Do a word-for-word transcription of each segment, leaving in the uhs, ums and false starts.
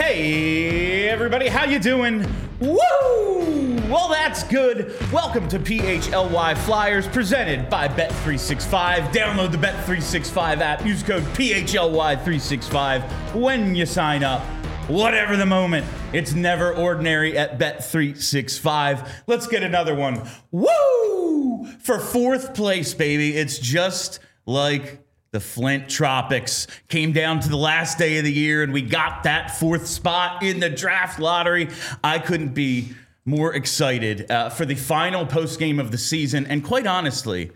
Hey, everybody, how you doing? Woo! Well, that's good. Welcome to P H L Y Flyers, presented by Bet three sixty-five. Download the Bet three sixty-five app. Use code P H L Y three sixty-five when you sign up. Whatever the moment, it's never ordinary at Bet three sixty-five. Let's get another one. Woo! For fourth place, baby. It's just like the Flint Tropics. Came down to the last day of the year, and we got that fourth spot in the draft lottery. I couldn't be more excited uh, for the final post-game of the season. And quite honestly,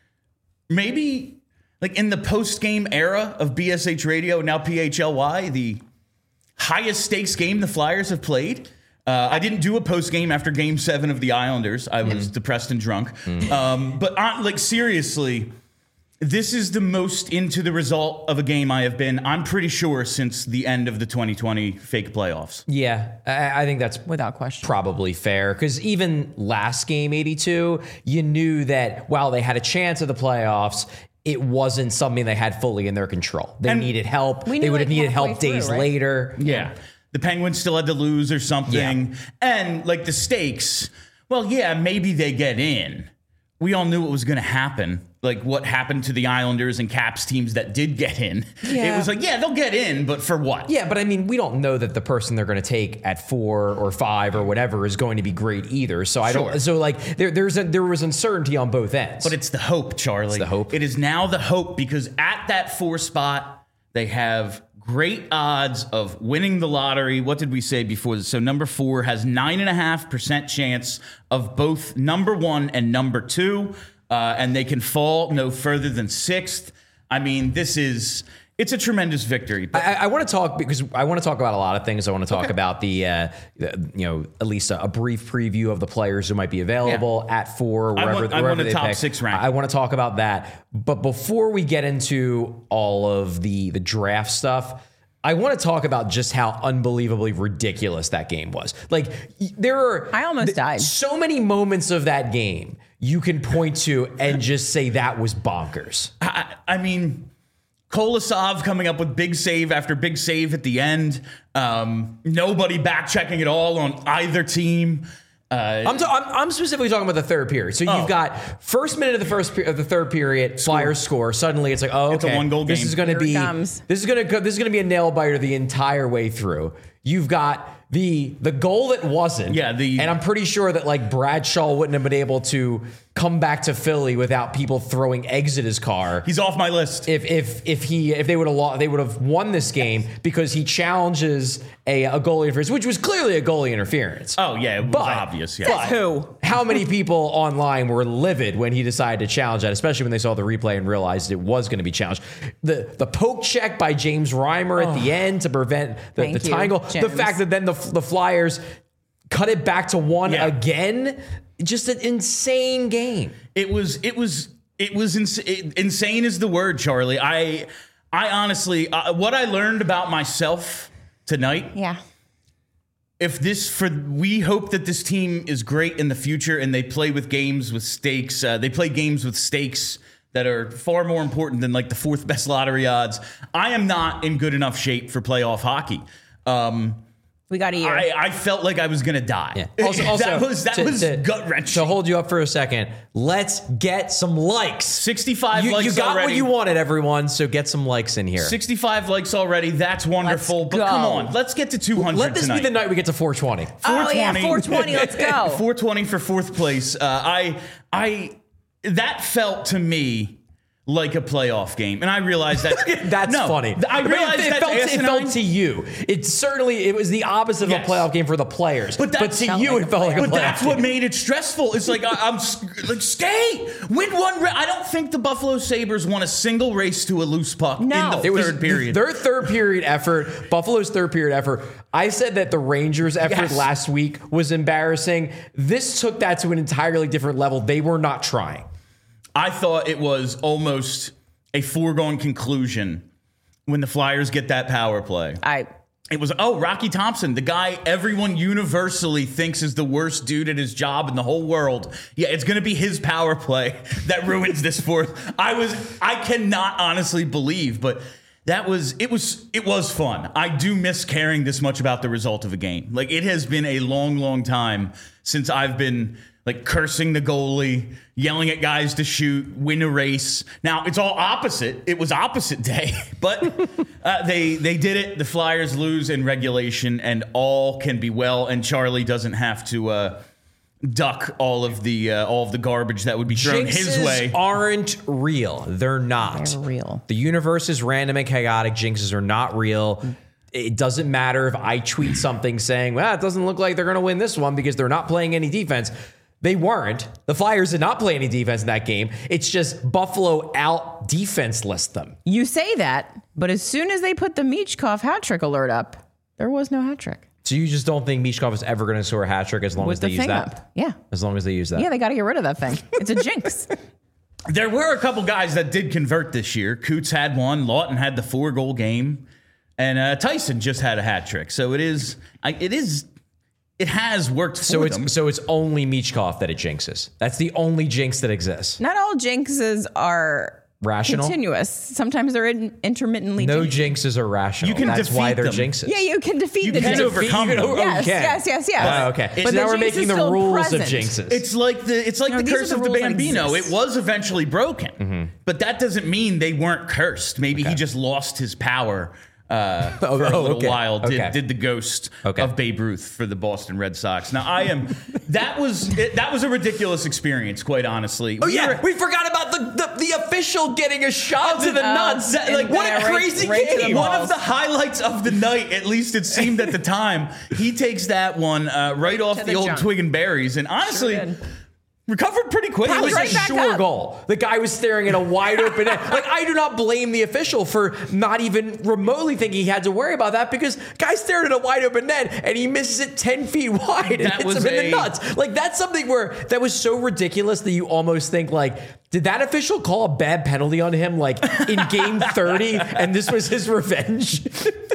maybe like in the post-game era of B S H Radio, now P H L Y, the highest stakes game the Flyers have played. Uh, I didn't do a post-game after Game seven of the Islanders. I was mm. depressed and drunk. Mm. Um, but uh, like seriously, this is the most into the result of a game I have been, I'm pretty sure, since the end of the twenty twenty fake playoffs. Yeah, I, I think that's without question probably fair, because even last game, eighty-two, you knew that while they had a chance at the playoffs, it wasn't something they had fully in their control. They and needed help. They would have like needed help days through, right? later. Yeah. The Penguins still had to lose or something. Yeah. And like the stakes, well, yeah, maybe they get in. We all knew what was going to happen. Like what happened to the Islanders and Caps teams that did get in. Yeah. It was like, yeah, they'll get in, but for what? Yeah, but I mean, we don't know that the person they're going to take at four or five or whatever is going to be great either. So I sure. don't. So like, there, there's a, there was uncertainty on both ends. But it's the hope, Charlie. It's the hope. It is now the hope, because at that four spot, they have great odds of winning the lottery. What did we say before this? So number four has nine and a half percent chance of both number one and number two. Uh, and they can fall no further than sixth. I mean, this is, it's a tremendous victory. But I, I want to talk, because I want to talk about a lot of things. I want to talk okay. about the, uh, the, you know, at least a, a brief preview of the players who might be available yeah. at four, wherever, I want, wherever I want a they top pick. six rank. I want to talk about that. But before we get into all of the, the draft stuff, I want to talk about just how unbelievably ridiculous that game was. Like, there are I almost th- died. so many moments of that game you can point to and just say that was bonkers. I, I mean, Kolosov coming up with big save after big save at the end. Um, nobody back checking at all on either team. Uh, I'm, t- I'm I'm specifically talking about the third period. So you've oh. got first minute of the first pe- of the third period, Flyers score. Suddenly it's like, oh, okay, it's a one goal game. This is going to be this is going to this is going to be a nail biter the entire way through. You've got the the goal that wasn't. Yeah, the and I'm pretty sure that like Bradshaw wouldn't have been able to come back to Philly without people throwing eggs at his car. He's off my list. If if if he if they would have lost, they would have won this game because he challenges a, a goalie interference, which was clearly a goalie interference. Oh yeah, it was but, obvious. Yeah. But who? How many people online were livid when he decided to challenge that, especially when they saw the replay and realized it was going to be challenged? The the poke check by James Reimer oh. at the end to prevent the, the tying goal. The fact that then the the Flyers cut it back to one yeah. again. Just an insane game. It was, it was, it was ins- it, insane is the word, Charlie. I, I honestly, uh, what I learned about myself tonight. Yeah. If this, for, we hope that this team is great in the future and they play with games with stakes. Uh, they play games with stakes that are far more important than like the fourth best lottery odds. I am not in good enough shape for playoff hockey. Um, We got a year. I, I felt like I was going to die. Yeah. Also, also, that was, that to, was to, gut-wrenching. To hold you up for a second, let's get some likes. sixty-five you, likes You got already. what you wanted, everyone, so get some likes in here. sixty-five likes already. That's wonderful. Let's but go. come on, let's get to two hundred Let this tonight. be the night we get to four twenty. Oh, yeah, four twenty. Let's go. four twenty for fourth place. Uh, I, I, that felt to me like a playoff game, and I realized that that's no, funny. I realized it, it, that felt, it felt to you. It certainly it was the opposite yes. of a playoff game for the players, but, but to you like it felt like a but playoff that's game. What made it stressful. It's like I, I'm like skate, win one. Ra- I don't think the Buffalo Sabres won a single race to a loose puck no. in the it third was period. Their third period effort, Buffalo's third period effort. I said that the Rangers' effort yes. last week was embarrassing. This took that to an entirely different level. They were not trying. I thought it was almost a foregone conclusion when the Flyers get that power play. I It was, oh, Rocky Thompson, the guy everyone universally thinks is the worst dude at his job in the whole world. Yeah, it's going to be his power play that ruins this fourth. I was, I cannot honestly believe, but That was it was it was fun. I do miss caring this much about the result of a game. Like, it has been a long, long time since I've been like cursing the goalie, yelling at guys to shoot, win a race. Now it's all opposite. It was opposite day, but uh, they they did it. The Flyers lose in regulation, and all can be well. And Charlie doesn't have to uh, duck all of the uh, all of the garbage that would be thrown Jinxes his way. Aren't real. They're not. They're real. The universe is random and chaotic. Jinxes are not real. It doesn't matter if I tweet something saying, well, it doesn't look like they're going to win this one because they're not playing any defense. They weren't. The Flyers did not play any defense in that game. It's just Buffalo out defenseless them. You say that, but as soon as they put the Michkov hat trick alert up, there was no hat trick. So you just don't think Michkov is ever going to score a hat trick as long With as they the use thing that? up. Yeah. As long as they use that. Yeah, they got to get rid of that thing. It's a jinx. There were a couple guys that did convert this year. Coots had one. Lawton had the four goal game, and uh, Tyson just had a hat trick. So it is. I, it is. It has worked for So it's them. so it's only Michkov that it jinxes. That's the only jinx that exists. Not all jinxes are Rational? continuous. Sometimes they're in, intermittently No jinxed. jinxes are rational. You can That's defeat why they're them. jinxes. Yeah, you can defeat You the can jinx. overcome You them. can- Yes, okay. yes, yes, yes. Oh, okay. But So the now we're jinx making is the still rules present. of jinxes. It's like the it's like No, the these curse are of the the rules that Bambino. It exist. was eventually broken, Mm-hmm. but that doesn't mean they weren't cursed. Maybe he just lost his power uh, Oh, for a oh, little okay. while. Did, Okay. did the ghost Okay. of Babe Ruth for the Boston Red Sox? Now I am. That was it, that was a ridiculous experience, quite honestly. Oh We yeah, were- we forgot about the, the the official getting a shot to the Oh, nuts. That- and like what yeah, a right- crazy right to the game! ball. One of the highlights of the night, at least it seemed at the time, he takes that one uh, right off To the, the old junk. twig and berries, and honestly, Sure did. recovered pretty quickly. It was right a back sure up. goal. The guy was staring at a wide open net. Like, I do not blame the official for not even remotely thinking he had to worry about that because guy stared at a wide open net and he misses it ten feet wide and That hits was him in the a- nuts. Like, that's something where that was so ridiculous that you almost think, like, did that official call a bad penalty on him, like, in game thirty and this was his revenge?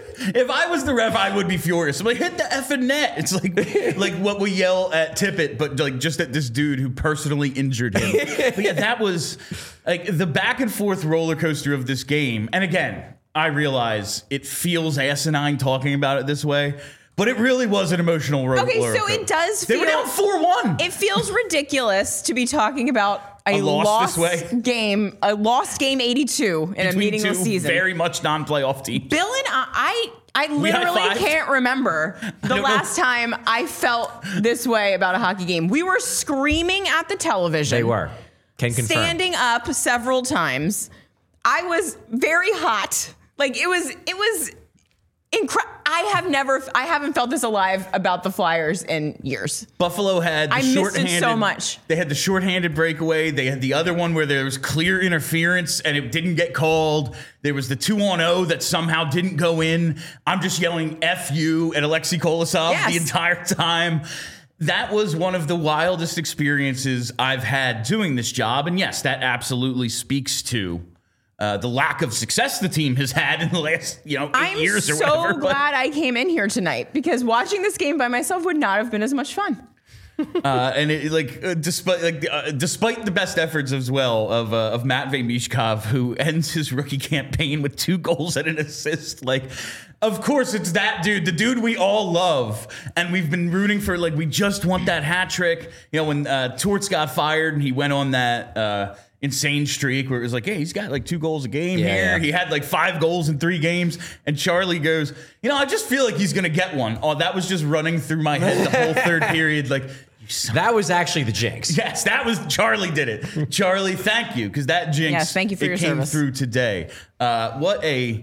If I was the ref, I would be furious. I'm like, hit the effing net. It's like like what we yell at Tippett, but like just at this dude who personally injured him. But yeah, that was like the back and forth roller coaster of this game. And again, I realize it feels asinine talking about it this way, but it really was an emotional ro- Okay, roller so coaster. it does They were feel- down four one. It feels ridiculous to be talking about a, A loss lost this way? game, a lost game eighty-two in a Between meaningless two season. very much non-playoff teams. Bill and I, I, I We literally high-fived? can't remember the don't know. last time I felt this way about a hockey game. We were screaming at the television. They were. Can confirm. Standing up several times. I was very hot. Like it was, it was incredible. I have never, I haven't felt this alive about the Flyers in years. Buffalo had the I missed it shorthanded. so much. They had the shorthanded breakaway. They had the other one where there was clear interference and it didn't get called. There was the two on oh that somehow didn't go in. I'm just yelling F you at Alexei Kolosov Yes. the entire time. That was one of the wildest experiences I've had doing this job. And yes, that absolutely speaks to uh, the lack of success the team has had in the last, you know, eight I'm years or so whatever. but- glad I came in here tonight because watching this game by myself would not have been as much fun. Uh, and it, like, uh, despite like uh, despite the best efforts as well of uh, of Matvei Michkov, who ends his rookie campaign with two goals and an assist, like, of course it's that dude, the dude we all love, and we've been rooting for. Like, we just want that hat trick. You know, when uh, Torts got fired and he went on that uh, insane streak where it was like, hey, he's got like two goals a game Yeah, here. yeah. He had like five goals in three games, and Charlie goes, you know, I just feel like he's gonna get one. Oh, that was just running through my head the whole third period, like. That was actually the jinx. Yes, that was Charlie did it. Charlie, thank you, because that jinx Yes, thank you for it your came service. through today. Uh, what a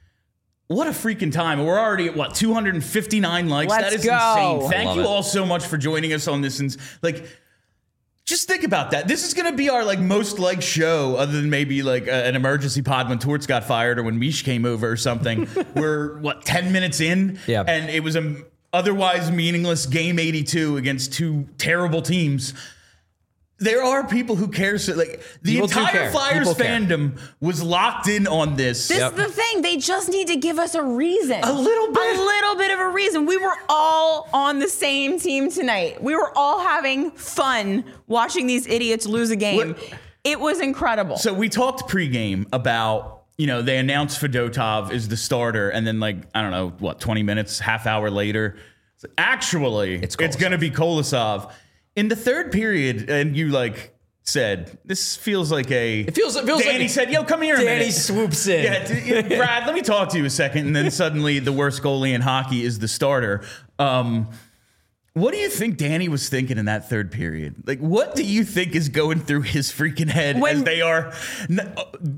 what a freaking time. We're already at what, two hundred fifty-nine likes? Let's that is go. insane. Thank Love you it. all so much for joining us on this. And like, just think about that. This is going to be our like most liked show, other than maybe like a, an emergency pod when Torts got fired or when Mish came over or something. We're what, ten minutes in, Yeah. and it was a otherwise meaningless game eighty-two against two terrible teams. There are people who care. So, like, the People do entire care. Flyers People care. fandom was locked in on this. This Yep. is the thing. They just need to give us a reason. A little bit. A little bit of a reason. We were all on the same team tonight. We were all having fun watching these idiots lose a game. What- It was incredible. So we talked pregame about, you know, they announced Fedotov is the starter, and then like I don't know what, twenty minutes, half hour later, actually it's, it's going to be Kolosov in the third period, and you like said this feels like a. It feels. It feels Danny like said, "Yo, come here." Danny a minute. swoops in. Yeah, Brad, let me talk to you a second, and then suddenly the worst goalie in hockey is the starter. Um, What do you think Danny was thinking in that third period? Like, what do you think is going through his freaking head when, as they are n-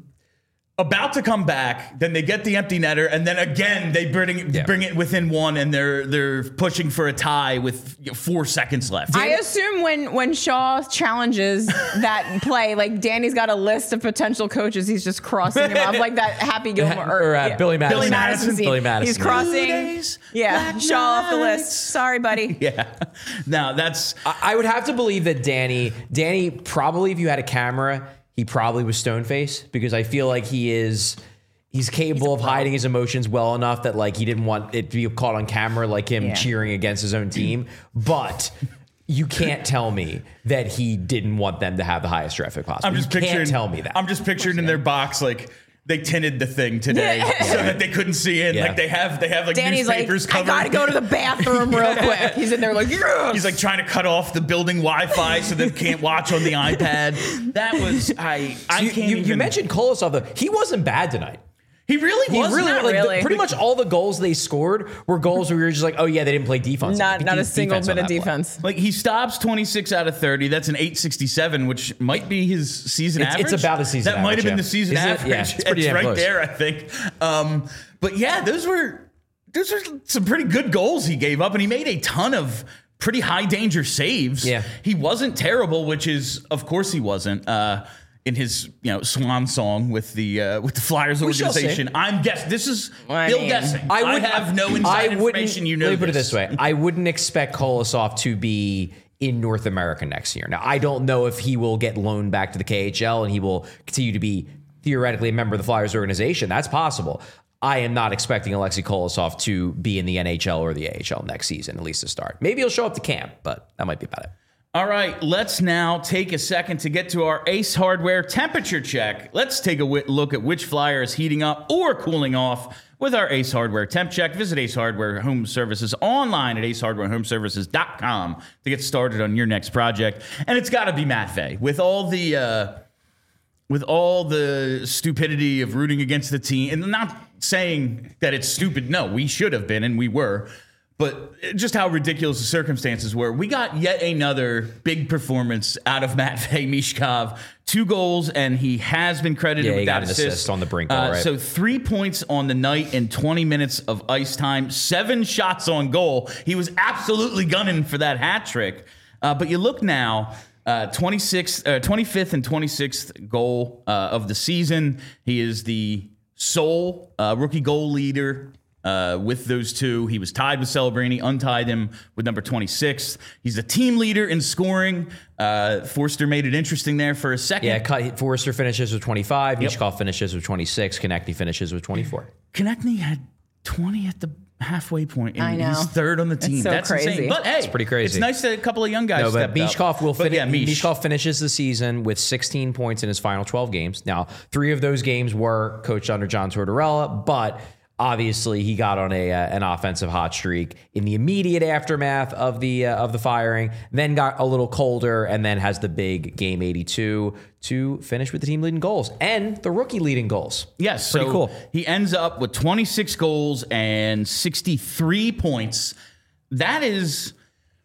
about to come back? Then they get the empty netter, and then again they bring it, yeah. bring it within one, and they're they're pushing for a tie with you know, four seconds left. I assume when when Shaw challenges that play, like Danny's got a list of potential coaches. He's just crossing them off, like that Happy Gilmore or, or uh, yeah. Billy Madison. Billy Madison. Billy Madison. He's crossing. Days, yeah, Shaw off the list. Sorry, buddy. Yeah. Now that's. I, I would have to believe that Danny. Danny probably, if you had a camera, he probably was stone faced because I feel like he is. He's capable he's of hiding his emotions well enough that like he didn't want it to be caught on camera, like him yeah. cheering against his own team. But you can't tell me that he didn't want them to have the highest draft pick possible. I'm just you picturing. Can't tell me that. I'm just picturing in their box like. They tinted the thing today yeah. so that they couldn't see it. Yeah. Like they have, they have like Danny's newspapers like, covered. I gotta go to the bathroom real quick. He's in there like, yes! He's like trying to cut off the building Wi-Fi so they can't watch on the iPad. That was I. I so you, can't you, even. You mentioned Kolosov though. He wasn't bad tonight. He really he was really, not like, really. The, pretty much all the goals they scored were goals where we were just like, oh yeah, they didn't play defense. Not They not a defense single bit of play. defense. Like he stops twenty-six out of thirty. That's an eight sixty-seven, which might be his season it's, average. It's about a season. That average, might have been yeah. the season Is it? average. Yeah, it's pretty it's damn right close. there, I think. Um, but yeah, those were those were some pretty good goals he gave up, and he made a ton of pretty high danger saves. Yeah, he wasn't terrible, which is of course he wasn't. Uh, in his, you know, swan song with the uh, with the Flyers we organization. I'm guessing. This is I Bill mean, guessing. I, would, I have no inside information. You know, let me put it this. this way: I wouldn't expect Kolosov to be in North America next year. Now, I don't know if he will get loaned back to the K H L and he will continue to be theoretically a member of the Flyers organization. That's possible. I am not expecting Alexei Kolosov to be in the N H L or the A H L next season, at least to start. Maybe he'll show up to camp, but that might be about it. All right, let's now take a second to get to our Ace Hardware temperature check. Let's take a w- look at which Flyer is heating up or cooling off with our Ace Hardware temp check. Visit Ace Hardware Home Services online at ace hardware home services dot com to get started on your next project. And it's got to be Matt Vey. With all the uh, with all the stupidity of rooting against the team, and I'm not saying that it's stupid. No, we should have been, and we were. But just how ridiculous the circumstances were. We got yet another big performance out of Matt Vey Mishkov. Two goals, and he has been credited yeah, with he that got an assist. assist on the brink. Uh, right. So three points on the night in twenty minutes of ice time. Seven shots on goal. He was absolutely gunning for that hat trick. Uh, but you look now, uh, twenty-sixth, uh, twenty-fifth and twenty-sixth goal uh, of the season. He is the sole uh, rookie goal leader. Uh, with those two, he was tied with Celebrini, untied him with number twenty-six. He's the team leader in scoring. Uh, Forster made it interesting there for a second. Yeah, Forster finishes with twenty-five. Yep. Mishkov finishes with twenty-six. Konechny finishes with twenty-four. Konechny had twenty at the halfway point, and I know. he's third on the team. It's so That's crazy. insane. But hey, it's pretty crazy. It's nice that a couple of young guys No, but stepped Mishkov up. will finish. Yeah, Mish. Mishkov finishes the season with sixteen points in his final twelve games. Now, three of those games were coached under John Tortorella, but obviously he got on a uh, an offensive hot streak in the immediate aftermath of the uh, of the firing. Then got a little colder, and then has the big game eighty-two to finish with the team leading goals and the rookie leading goals. Yes, pretty so cool. He ends up with twenty-six goals and sixty-three points. That is,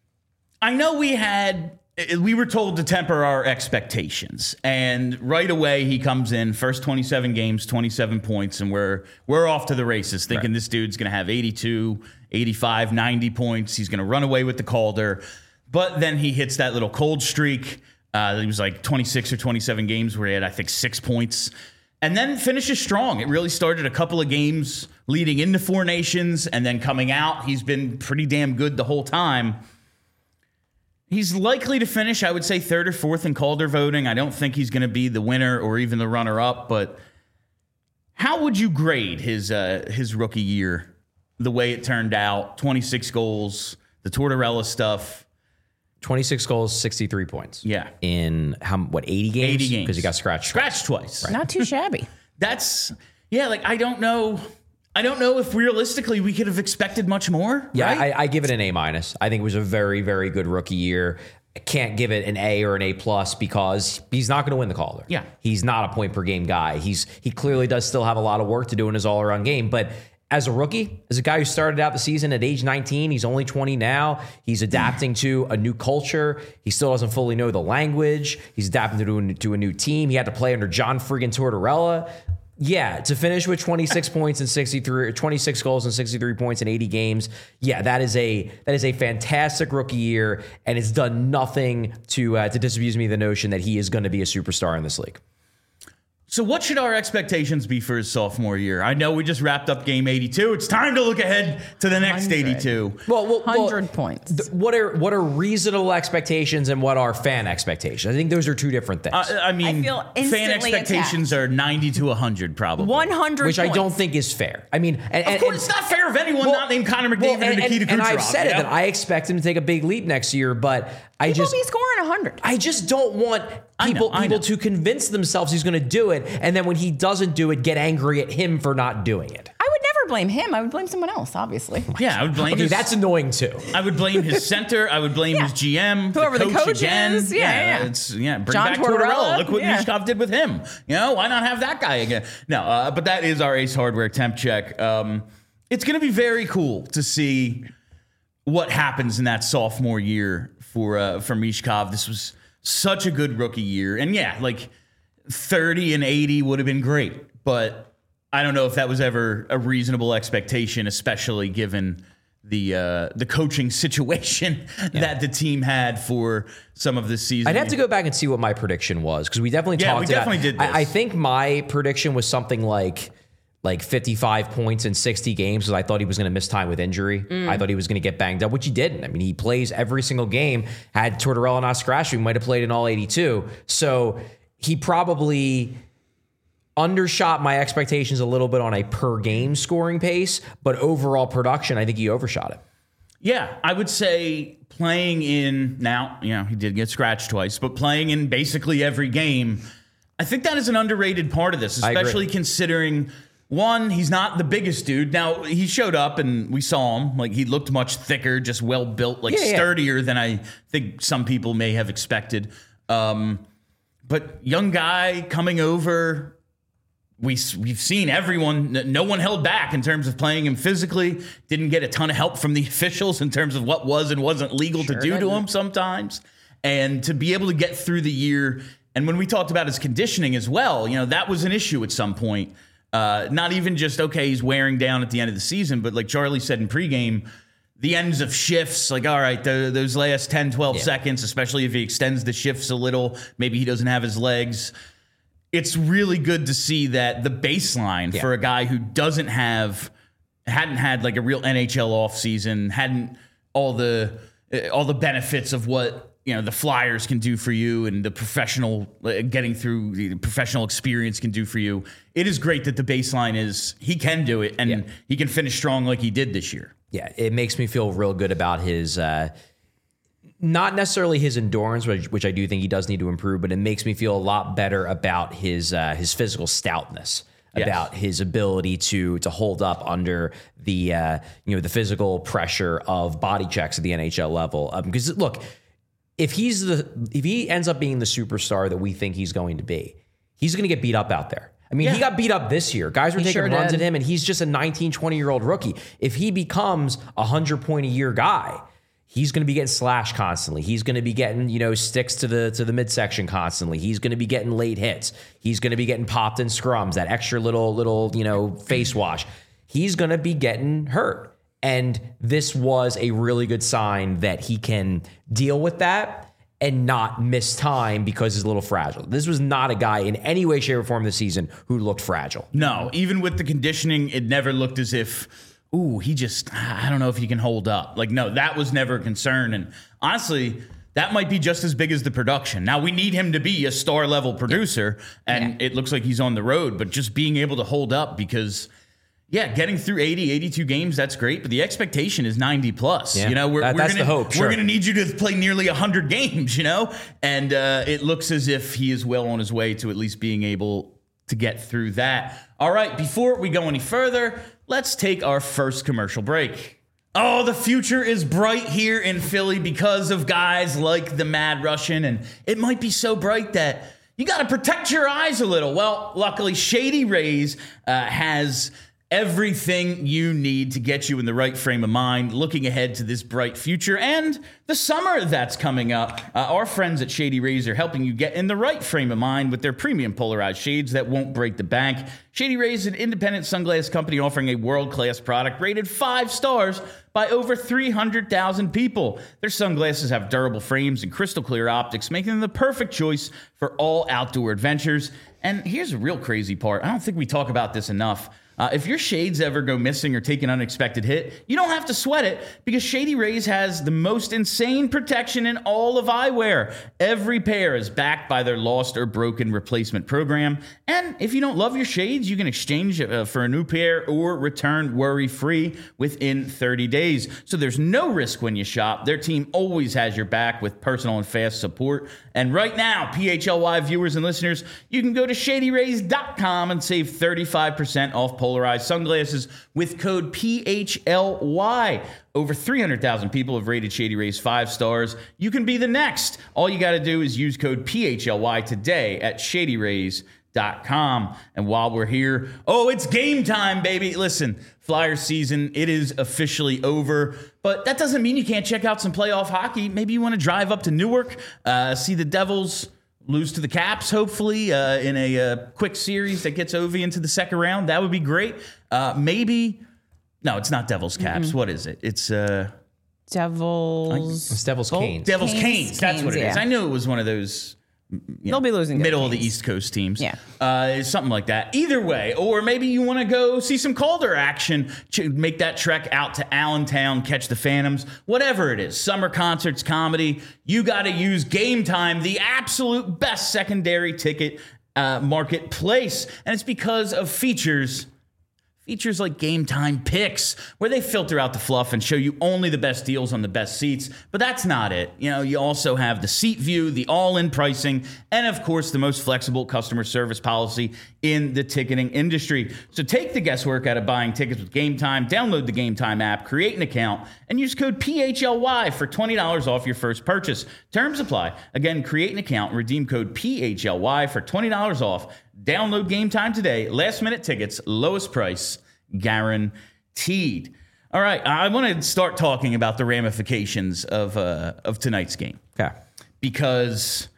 I know we had. We were told to temper our expectations, and right away he comes in, first twenty-seven games, twenty-seven points, and we're we're off to the races, thinking right. This dude's going to have eighty-two, eighty-five, ninety points. He's going to run away with the Calder, but then he hits that little cold streak. Uh, it was like twenty-six or twenty-seven games where he had, I think, six points, and then finishes strong. It really started a couple of games leading into Four Nations, and then coming out, he's been pretty damn good the whole time. He's likely to finish, I would say, third or fourth in Calder voting. I don't think he's going to be the winner or even the runner-up, but how would you grade his uh, his rookie year, the way it turned out? twenty-six goals, the Tortorella stuff. twenty-six goals, sixty-three points. Yeah. In, how what, eighty games? eighty games. Because he got scratched. Scratched twice. Right. Not too shabby. That's, Yeah, like, I don't know. I don't know if realistically we could have expected much more. Yeah, right? I, I give it an A minus. I think it was a very, very good rookie year. I can't give it an A or an A plus because he's not going to win the Calder. Yeah. He's not a point per game guy. He's he clearly does still have a lot of work to do in his all around game. But as a rookie, as a guy who started out the season at age nineteen, he's only twenty now. He's adapting to a new culture. He still doesn't fully know the language. He's adapting to a, to a new team. He had to play under John friggin' Tortorella. Yeah, to finish with twenty-six points and sixty-three, twenty-six goals and sixty-three points in eighty games. Yeah, that is a that is a fantastic rookie year, and it's done nothing to uh, to disabuse me of the notion that he is going to be a superstar in this league. So what should our expectations be for his sophomore year? I know we just wrapped up game eighty-two. It's time to look ahead to the next eighty-two. Well, well one hundred well, points. Th- what are what are reasonable expectations and what are fan expectations? I think those are two different things. Uh, I mean, I feel fan expectations attacked. are ninety to one hundred probably. one hundred Which points. I don't think is fair. I mean, and, of and, course, and, it's not fair of anyone well, not named Connor McDavid well, and, and Nikita and, Kucherov. And I've said it know? that I expect him to take a big leap next year, but I he just will be scoring one hundred. I just don't want people I know, I people know. to convince themselves he's going to do it, and then when he doesn't do it, get angry at him for not doing it. I would never blame him. I would blame someone else, obviously. Yeah, I would blame Okay, his, that's annoying too. I would blame his center. I would blame Yeah. his G M, Whoever the the coach coach again. is. Yeah, yeah, yeah. It's, yeah bring John back Tortorella. Tortorella. Look what Yeah. Mishkov did with him. You know, why not have that guy again? No, uh, but that is our Ace Hardware temp check. Um, it's going to be very cool to see what happens in that sophomore year for uh, for Mishkov. This was such a good rookie year, and yeah, like thirty and eighty would have been great, but I don't know if that was ever a reasonable expectation, especially given the uh, the coaching situation yeah. that the team had for some of this season. I'd have to go back and see what my prediction was because we definitely yeah, talked we about definitely did this. I, I think my prediction was something like like fifty-five points in sixty games because I thought he was going to miss time with injury. Mm. I thought he was going to get banged up, which he didn't. I mean, he plays every single game. Had Tortorella not scratched, he might have played in all eighty-two. So he probably undershot my expectations a little bit on a per game scoring pace, but overall production, I think he overshot it. Yeah, I would say playing in, now, you know, he did get scratched twice, but playing in basically every game, I think that is an underrated part of this, especially considering, one, he's not the biggest dude. Now, he showed up and we saw him. Like, he looked much thicker, just well-built, like yeah, sturdier yeah. than I think some people may have expected. Um, but young guy coming over... We, we've seen everyone, no one held back in terms of playing him physically, didn't get a ton of help from the officials in terms of what was and wasn't legal sure to do didn't. to him sometimes. And to be able to get through the year, and when we talked about his conditioning as well, you know, that was an issue at some point. Uh, not even just, okay, he's wearing down at the end of the season, but like Charlie said in pregame, the ends of shifts, like, all right, the, those last ten, twelve yeah. seconds, especially if he extends the shifts a little, maybe he doesn't have his legs. It's really good to see that the baseline yeah. for a guy who doesn't have, hadn't had like a real N H L offseason, hadn't all the all the benefits of what, you know, the Flyers can do for you and the professional, uh, getting through the professional experience can do for you. It is great that the baseline is he can do it and yeah. he can finish strong like he did this year. Yeah, it makes me feel real good about his uh not necessarily his endurance, which, which I do think he does need to improve, but it makes me feel a lot better about his uh, his physical stoutness, yes. about his ability to to hold up under the uh, you know the physical pressure of body checks at the N H L level. Um, because look, if he's the if he ends up being the superstar that we think he's going to be, he's going to get beat up out there. I mean, yeah. he got beat up this year. Guys were he taking sure runs did. at him, and he's just a nineteen, twenty-year-old rookie. If he becomes a hundred-point-a-year guy, he's going to be getting slashed constantly. He's going to be getting, you know, sticks to the to the midsection constantly. He's going to be getting late hits. He's going to be getting popped in scrums, that extra little, little, you know, face wash. He's going to be getting hurt. And this was a really good sign that he can deal with that and not miss time because he's a little fragile. This was not a guy in any way, shape, or form this season who looked fragile. No, even with the conditioning, it never looked as if... ooh, he just, I don't know if he can hold up. Like, no, that was never a concern. And honestly, that might be just as big as the production. Now, we need him to be a star-level producer, and yeah. it looks like he's on the road, but just being able to hold up because, yeah, getting through eighty, eighty-two games, that's great, but the expectation is ninety plus. Yeah. You know, we're, that, we're that's gonna, the hope, sure. We're going to need you to play nearly one hundred games, you know? And uh, it looks as if he is well on his way to at least being able to get through that. All right, before we go any further, let's take our first commercial break. Oh, the future is bright here in Philly because of guys like the Mad Russian, and it might be so bright that you got to protect your eyes a little. Well, luckily, Shady Rays uh, has everything you need to get you in the right frame of mind, looking ahead to this bright future and the summer that's coming up. Uh, our friends at Shady Rays are helping you get in the right frame of mind with their premium polarized shades that won't break the bank. Shady Rays is an independent sunglass company offering a world-class product rated five stars by over three hundred thousand people. Their sunglasses have durable frames and crystal clear optics, making them the perfect choice for all outdoor adventures. And here's a real crazy part. I don't think we talk about this enough. Uh, if your shades ever go missing or take an unexpected hit, you don't have to sweat it because Shady Rays has the most insane protection in all of eyewear. Every pair is backed by their lost or broken replacement program. And if you don't love your shades, you can exchange uh, for a new pair or return worry-free within thirty days. So there's no risk when you shop. Their team always has your back with personal and fast support. And right now, P H L Y viewers and listeners, you can go to shady rays dot com and save thirty-five percent off polarized sunglasses with code P H L Y. Over three hundred thousand people have rated Shady Rays five stars. You can be the next. All you got to do is use code P H L Y today at shady rays dot com. And while we're here, oh, it's game time, baby. Listen, Flyers season, it is officially over, but that doesn't mean you can't check out some playoff hockey. Maybe you want to drive up to Newark, uh, see the Devils lose to the Caps, hopefully, uh, in a uh, quick series that gets Ovi into the second round. That would be great. Uh, maybe, no, it's not Devils Caps. Mm-hmm. What is it? It's uh, Devils. It's Devils Canes. Devils Canes, Canes. That's Canes, what it yeah. is. I knew it was one of those. You They'll know, be losing middle of the Canes. East Coast teams. Yeah. Uh, something like that. Either way, or maybe you want to go see some Calder action, make that trek out to Allentown, catch the Phantoms, whatever it is, summer concerts, comedy, you got to use Game Time, the absolute best secondary ticket uh, marketplace. And it's because of features Features like Game Time Picks, where they filter out the fluff and show you only the best deals on the best seats. But that's not it. You know, you also have the seat view, the all-in pricing, and of course, the most flexible customer service policy in the ticketing industry. So take the guesswork out of buying tickets with Game Time, download the Game Time app, create an account, and use code P H L Y for twenty dollars off your first purchase. Terms apply. Again, create an account and redeem code P H L Y for twenty dollars off. Download Game Time today. Last minute tickets, lowest price, guaranteed. All right, I want to start talking about the ramifications of uh, of tonight's game. Okay. Because,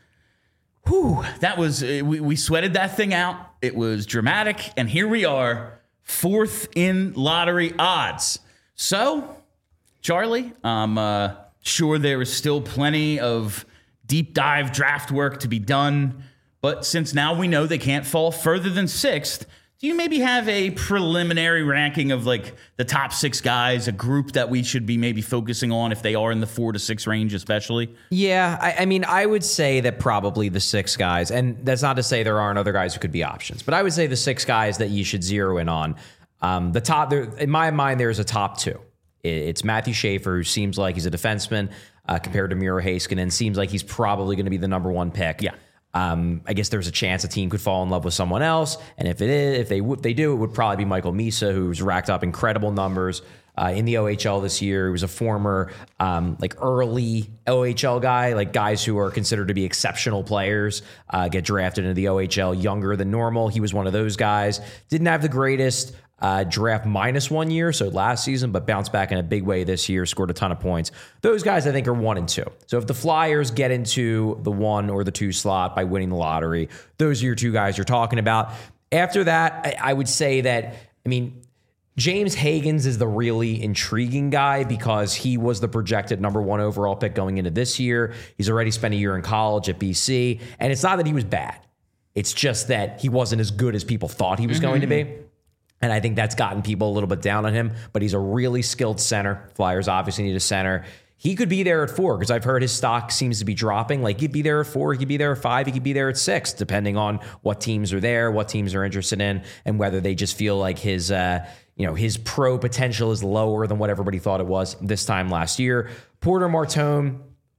whew, that was, we, we sweated that thing out. It was dramatic, and here we are, fourth in lottery odds. So, Charlie, I'm uh, sure there is still plenty of deep dive draft work to be done. But since now we know they can't fall further than sixth, do you maybe have a preliminary ranking of like the top six guys, a group that we should be maybe focusing on if they are in the four to six range, especially? Yeah, I, I mean, I would say that probably the six guys, and that's not to say there aren't other guys who could be options, but I would say the six guys that you should zero in on. Um, the top, there, in my mind, there's a top two. It's Matthew Schaefer, who seems like he's a defenseman uh, compared to Miro Heiskanen. Seems like he's probably going to be the number one pick. Yeah. Um, I guess there's a chance a team could fall in love with someone else, and if it is, if they w- they do, it would probably be Michael Misa, who's racked up incredible numbers uh, in the O H L this year. He was a former um, like early O H L guy, like guys who are considered to be exceptional players uh, get drafted into the O H L younger than normal. He was one of those guys. Didn't have the greatest Uh, draft minus one year, so last season, but bounced back in a big way this year, scored a ton of points. Those guys, I think, are one and two. So if the Flyers get into the one or the two slot by winning the lottery, those are your two guys you're talking about. After that, I, I would say that, I mean, James Higgins is the really intriguing guy because he was the projected number one overall pick going into this year. He's already spent a year in college at B C, and it's not that he was bad. It's just that he wasn't as good as people thought he was mm-hmm. going to be. And I think that's gotten people a little bit down on him, but he's a really skilled center. Flyers obviously need a center. He could be there at four because I've heard his stock seems to be dropping. Like he'd be there at four, he could be there at five, he could be there at six, depending on what teams are there, what teams are interested in, and whether they just feel like his, uh, you know, his pro potential is lower than what everybody thought it was this time last year. Porter Martone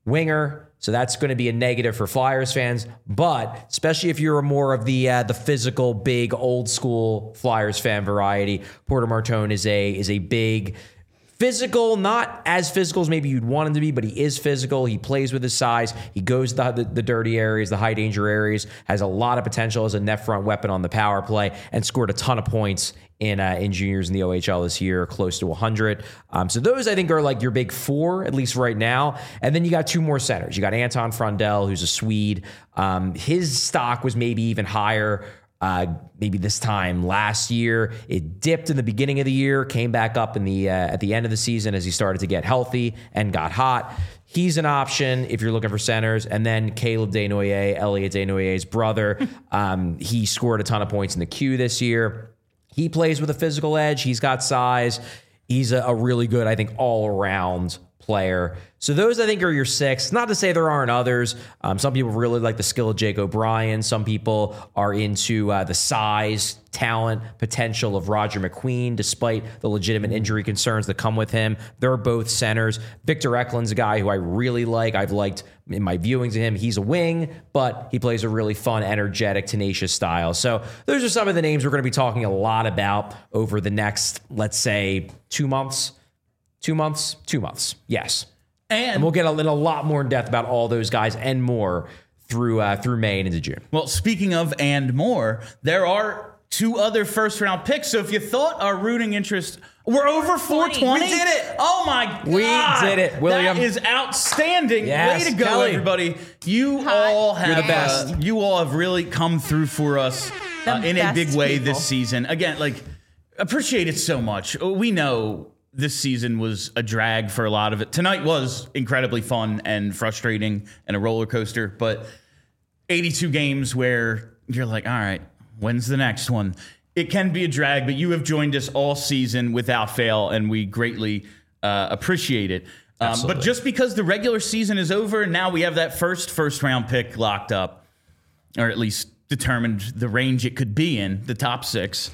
winger. So that's going to be a negative for Flyers fans, but especially if you're more of the uh, the physical, big, old school Flyers fan variety, Porter Martone is a is a big, physical, not as physical as maybe you'd want him to be, but he is physical. He plays with his size. He goes to the, the, the dirty areas, the high danger areas, has a lot of potential as a net front weapon on the power play, and scored a ton of points in uh, in juniors in the O H L this year, close to one hundred. Um, so those, I think, are like your big four, at least right now. And then you got two more centers. You got Anton Frundell, who's a Swede. Um, his stock was maybe even higher uh, maybe this time last year. It dipped in the beginning of the year, came back up in the uh, at the end of the season as he started to get healthy and got hot. He's an option if you're looking for centers. And then Caleb Desnoyers, Elliot Desnoyers' brother. um, he scored a ton of points in the Q this year. He plays with a physical edge. He's got size. He's a, a really good, I think, all-around player. So those, I think, are your six. Not to say there aren't others. Um, some people really like the skill of Jake O'Brien. Some people are into uh, the size, talent, potential of Roger McQueen, despite the legitimate injury concerns that come with him. They're both centers. Victor Eklund's a guy who I really like. I've liked in my viewings of him. He's a wing, but he plays a really fun, energetic, tenacious style. So those are some of the names we're going to be talking a lot about over the next, let's say, two months. Two months? Two months. Yes. And, and we'll get a, a lot more in depth about all those guys and more through uh, through May and into June. Well, speaking of and more, there are two other first round picks. So if you thought our rooting interest, we're over four twenty. We did it. Oh my God. We did it, William. That is outstanding. Yes, way to go, Kelly. everybody. You Hi. all have You're the best. Uh, you all have really come through for us uh, in a best big way people. this season. Again, like, appreciate it so much. We know this season was a drag for a lot of it. Tonight was incredibly fun and frustrating and a roller coaster, but eighty-two games where you're like, all right, when's the next one? It can be a drag, but you have joined us all season without fail, and we greatly uh, appreciate it. Um, but just because the regular season is over and now we have that first first round pick locked up, or at least determined the range it could be in, the top six,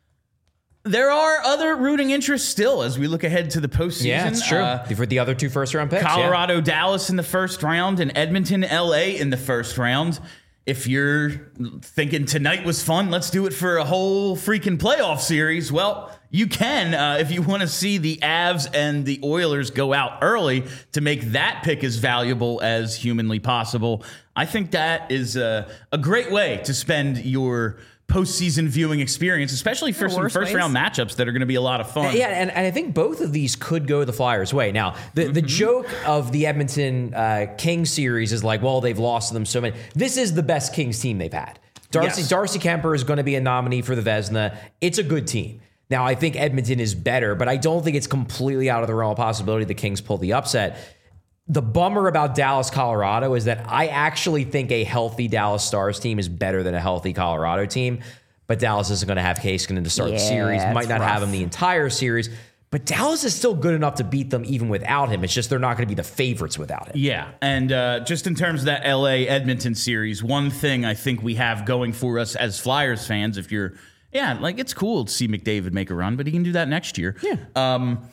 there are other rooting interests still as we look ahead to the postseason. Yeah, it's true. Uh, For the other two first-round picks. Colorado, Dallas in the first round, and Edmonton, L A in the first round. If you're thinking tonight was fun, let's do it for a whole freaking playoff series. Well, you can uh, if you want to see the Avs and the Oilers go out early to make that pick as valuable as humanly possible. I think that is a, a great way to spend your postseason viewing experience, especially for some first ways. round matchups that are going to be a lot of fun. Yeah, and, and I think both of these could go the Flyers' way. Now, the, mm-hmm. the joke of the Edmonton uh, Kings series is like, well, they've lost to them so many. This is the best Kings team they've had. Darcy, yes. Darcy Kemper is going to be a nominee for the Vezina. It's a good team. Now, I think Edmonton is better, but I don't think it's completely out of the realm of possibility the Kings pull the upset. The bummer about Dallas, Colorado is that I actually think a healthy Dallas Stars team is better than a healthy Colorado team. But Dallas isn't going to have Kaskinen to start Yeah, the series. Might not rough. have him the entire series. But Dallas is still good enough to beat them even without him. It's just they're not going to be the favorites without him. Yeah, and uh, just in terms of that L A Edmonton series, one thing I think we have going for us as Flyers fans, if you're, yeah, like it's cool to see McDavid make a run, but he can do that next year. Yeah. Um,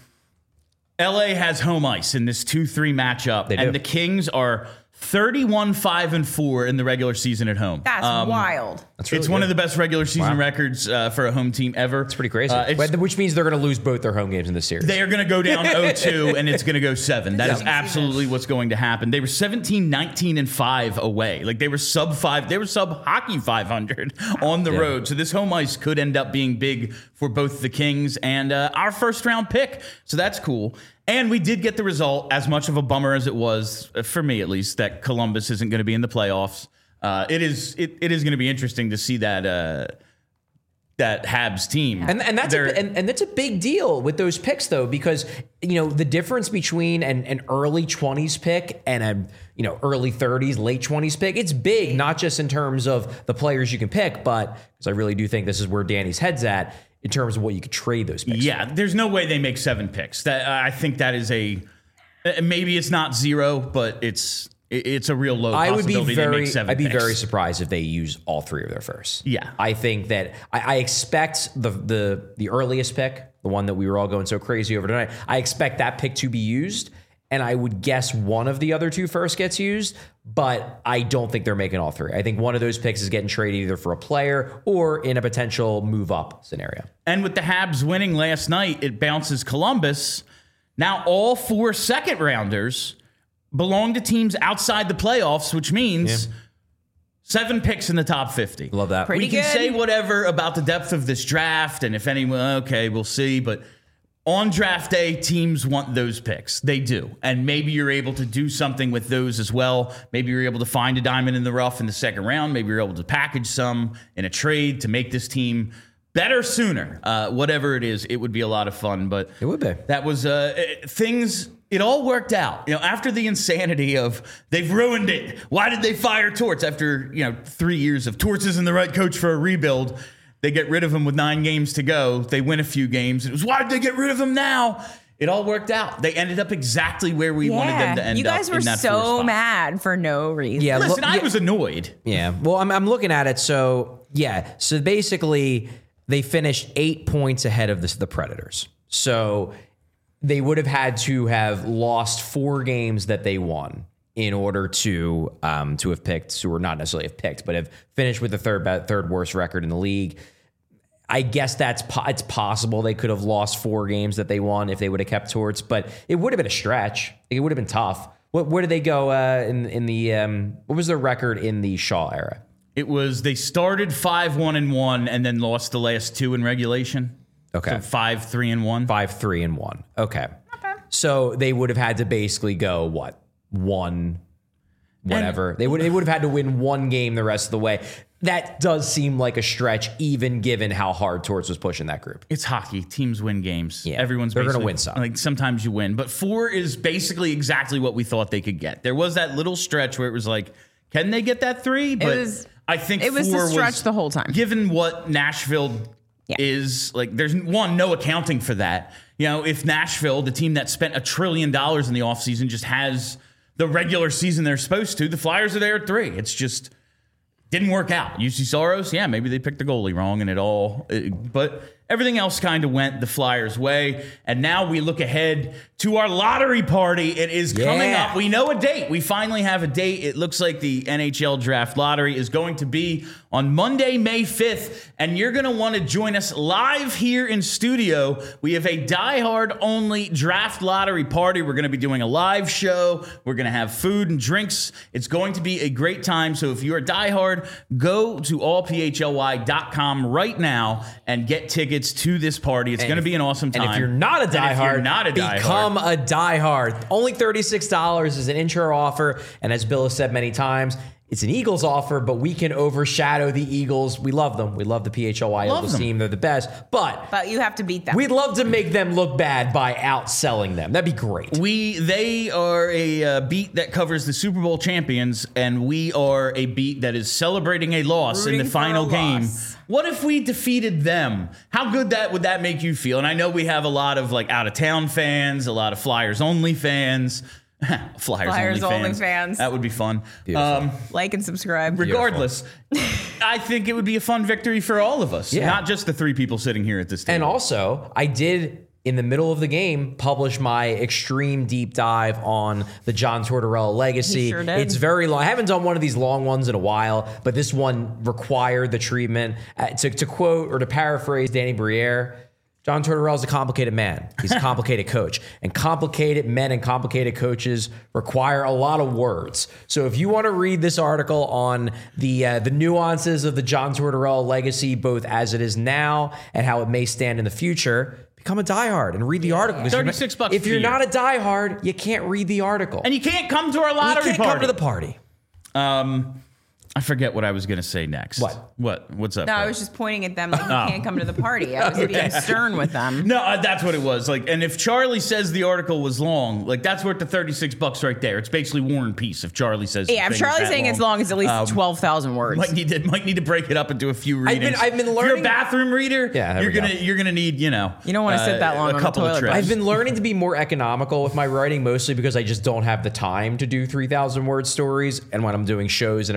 L A has home ice in this two three matchup, They do. and the Kings are thirty-one five and four in the regular season at home. That's Um, wild. That's really it's one good. of the best regular season Wow. records uh, for a home team ever. It's pretty crazy. Uh, it's- Which means they're going to lose both their home games in this series. They are going to go down oh two, and it's going to go seven. That is Yeah. absolutely what's going to happen. They were seventeen, nineteen, and five away. Like, they were sub five. They were sub hockey five hundred on the Yeah. road. So this home ice could end up being big for both the Kings and uh, our first round pick. So that's cool. And we did get the result, as much of a bummer as it was, uh, for me at least, that Columbus isn't going to be in the playoffs. Uh, it is it, it is going to be interesting to see that uh, that Habs team. And and that's a, They're- and, and that's a big deal with those picks though, because you know the difference between an, an early twenties pick and a you know early thirties, late twenties pick, it's big, not just in terms of the players you can pick, but because I really do think this is where Danny's head's at in terms of what you could trade those picks. Yeah, there's no way they make seven picks. That I think that is a uh, maybe it's not zero, but it's it- it's a real low I would be possibility they very, make seven I'd be picks. very surprised if they use all three of their firsts. Yeah. I think that I, I expect the the the earliest pick, the one that we were all going so crazy over tonight. I expect that pick to be used, and I would guess one of the other two first gets used, but I don't think they're making all three. I think one of those picks is getting traded either for a player or in a potential move up scenario. And with the Habs winning last night, it bounces Columbus. Now all four second rounders belong to teams outside the playoffs, which means yeah. seven picks in the top fifty. Love that. Pretty we can good. say whatever about the depth of this draft, and if anyone, okay, we'll see. But on draft day, teams want those picks. They do. And maybe you're able to do something with those as well. Maybe you're able to find a diamond in the rough in the second round. Maybe you're able to package some in a trade to make this team better sooner. Uh, whatever it is, it would be a lot of fun. But it would be. That was uh, things. It all worked out. You know, after the insanity of they've ruined it. Why did they fire Torts after, you know, three years of Torts isn't the right coach for a rebuild? They get rid of him with nine games to go. They win a few games. It was, why did they get rid of him now? It all worked out. They ended up exactly where we yeah. wanted them to end up. You guys up were in that so mad for no reason. Yeah, Listen, look, I yeah, was annoyed. Yeah. Well, I'm, I'm looking at it. So, yeah. So basically, they finished eight points ahead of this, the Predators. So they would have had to have lost four games that they won in order to um, to have picked, or not necessarily have picked, but have finished with the third third worst record in the league. I guess that's po- it's possible they could have lost four games that they won if they would have kept Torts, but it would have been a stretch. It would have been tough. What, where did they go uh, in in the um, what was their record in the Shaw era? It was they started five one and one and then lost the last two in regulation. Okay, so five three and one. Five three and one. Okay, so they would have had to basically go what one, whatever. And they would they would have had to win one game the rest of the way. That does seem like a stretch, even given how hard Torts was pushing that group. It's hockey. Teams win games. Yeah, Everyone's they're going to win some. Like sometimes you win, but four is basically exactly what we thought they could get. There was that little stretch where it was like, can they get that three? But it was, I think it was four the stretch was, the whole time. Given what Nashville yeah. is like, there's one no accounting for that. You know, if Nashville, the team that spent a trillion dollars in the offseason, just has the regular season they're supposed to, the Flyers are there at three. It's just. Didn't work out. U C Soros, yeah, maybe they picked the goalie wrong and it all, it, but everything else kind of went the Flyers' way. And now we look ahead to our lottery party. It is yeah. coming up. We know a date. We finally have a date. It looks like the N H L Draft Lottery is going to be on Monday, May fifth. And you're going to want to join us live here in studio. We have a diehard only draft lottery party. We're going to be doing a live show. We're going to have food and drinks. It's going to be a great time. So if you're a diehard, go to all p h l y dot com right now and get tickets to this party. It's going to be an awesome time. And if you're not a diehard, not a diehard, become a diehard. Only thirty-six dollars is an intro offer. And as Bill has said many times, it's an Eagles offer, but we can overshadow the Eagles. We love them. We love the P H L Y Eagles team. They're the best. But, but you have to beat them. We'd love to make them look bad by outselling them. That'd be great. We They are a uh, beat that covers the Super Bowl champions, and we are a beat that is celebrating a loss Rooting in the final game. Loss. What if we defeated them? How good that would that make you feel? And I know we have a lot of like out of town fans, a lot of Flyers only fans. Flyers, Flyers only, only fans. fans. That would be fun. Um, like and subscribe. Regardless, I think it would be a fun victory for all of us, yeah. not just the three people sitting here at this table. And also, I did, in the middle of the game, publish my extreme deep dive on the John Tortorella legacy. He sure did. It's very long. I haven't done one of these long ones in a while, but this one required the treatment. Uh, to, to quote or to paraphrase Danny Briere, John Tortorella is a complicated man. He's a complicated coach. And complicated men and complicated coaches require a lot of words. So if you want to read this article on the uh, the nuances of the John Tortorella legacy, both as it is now and how it may stand in the future, become a diehard and read the article. thirty-six bucks If for you're you. not a diehard, you can't read the article. And you can't come to our lottery you can't party. come to the party. Um, I forget what I was going to say next. What? What? What's up? No, bro? I was just pointing at them like you can't come to the party. I was being stern with them. No, uh, that's what it was. Like, and if Charlie says the article was long, like that's worth the thirty-six bucks right there. It's basically War and Peace. If Charlie says, Yeah, if the thing is Charlie's that saying it's long, it's at least Um, twelve thousand words. Might need to might need to break it up into a few I've been- readings. I've been If you're learning- a bathroom reader, Yeah, there you're we gonna go. you're gonna need you know You don't wanna sit that long a on the couple of toilet trips. brush. I've been learning to be more economical with my writing, mostly because I just don't have the time to do three thousand word stories. And when I'm doing shows and everything like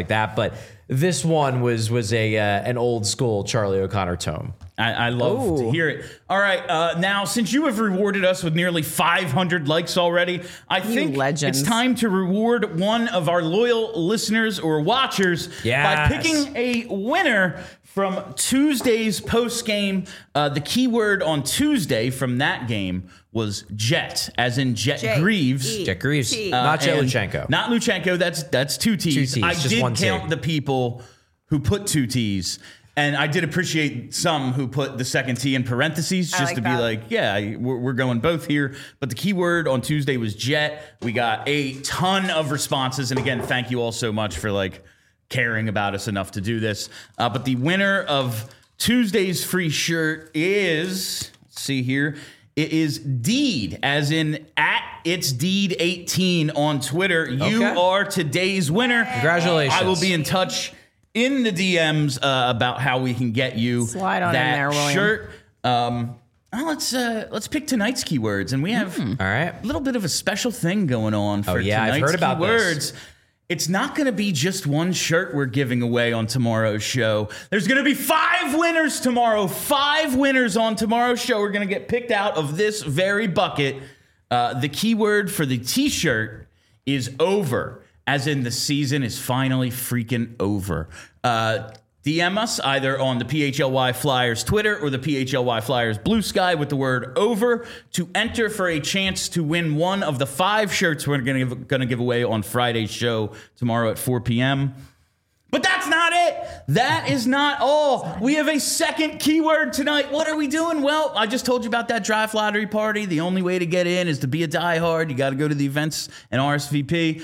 like that. But this one was was a uh, an old school Charlie O'Connor tome. I, I love Ooh. to hear it. All right, uh, now since you have rewarded us with nearly five hundred likes already, I you think legends. it's time to reward one of our loyal listeners or watchers yes. by picking a winner from Tuesday's post game. Uh, the keyword on Tuesday from that game was Jet, as in Jet J- Greaves. E- Jet Greaves, T. uh, not Jet Luchenko. Not Luchenko. That's that's two T's. Two T's I just did one count T. the people who put two T's. And I did appreciate some who put the second T in parentheses just like to be that. like, yeah, we're, we're going both here. But the keyword on Tuesday was Jet. We got a ton of responses. And again, thank you all so much for like caring about us enough to do this. Uh, but the winner of Tuesday's free shirt is, let's see here, it is Deed, as in at It's Deed eighteen on Twitter. You okay. are today's winner. Congratulations. I will be in touch in the D Ms uh, about how we can get you Slide on that in there, William. shirt. Um, well, let's uh, let's pick tonight's keywords, and we have mm. All right. a little bit of a special thing going on for oh, yeah, tonight's I've heard about keywords. This. It's not going to be just one shirt we're giving away on tomorrow's show. There's going to be five winners tomorrow. Five winners on tomorrow's show. We're going to get picked out of this very bucket. Uh, the keyword for the T-shirt is over, as in the season is finally freaking over. Uh, D M us either on the P H L Y Flyers Twitter or the P H L Y Flyers Blue Sky with the word over to enter for a chance to win one of the five shirts we're going to give, going to give away on Friday's show tomorrow at four p.m. But that's not it. That is not all. We have a second keyword tonight. What are we doing? Well, I just told you about that draft lottery party. The only way to get in is to be a diehard. You got to go to the events and R S V P.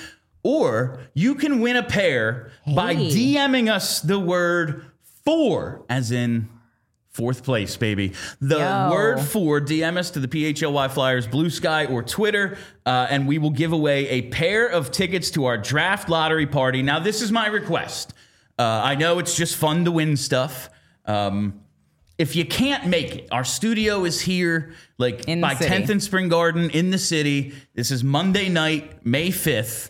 Or you can win a pair hey. by DMing us the word four, as in fourth place, baby. The Yo. word four, D M us to the P H L Y Flyers Blue Sky or Twitter, uh, and we will give away a pair of tickets to our draft lottery party. Now, this is my request. Uh, I know it's just fun to win stuff. Um, if you can't make it, our studio is here, like in by city. tenth and Spring Garden in the city. This is Monday night, May fifth.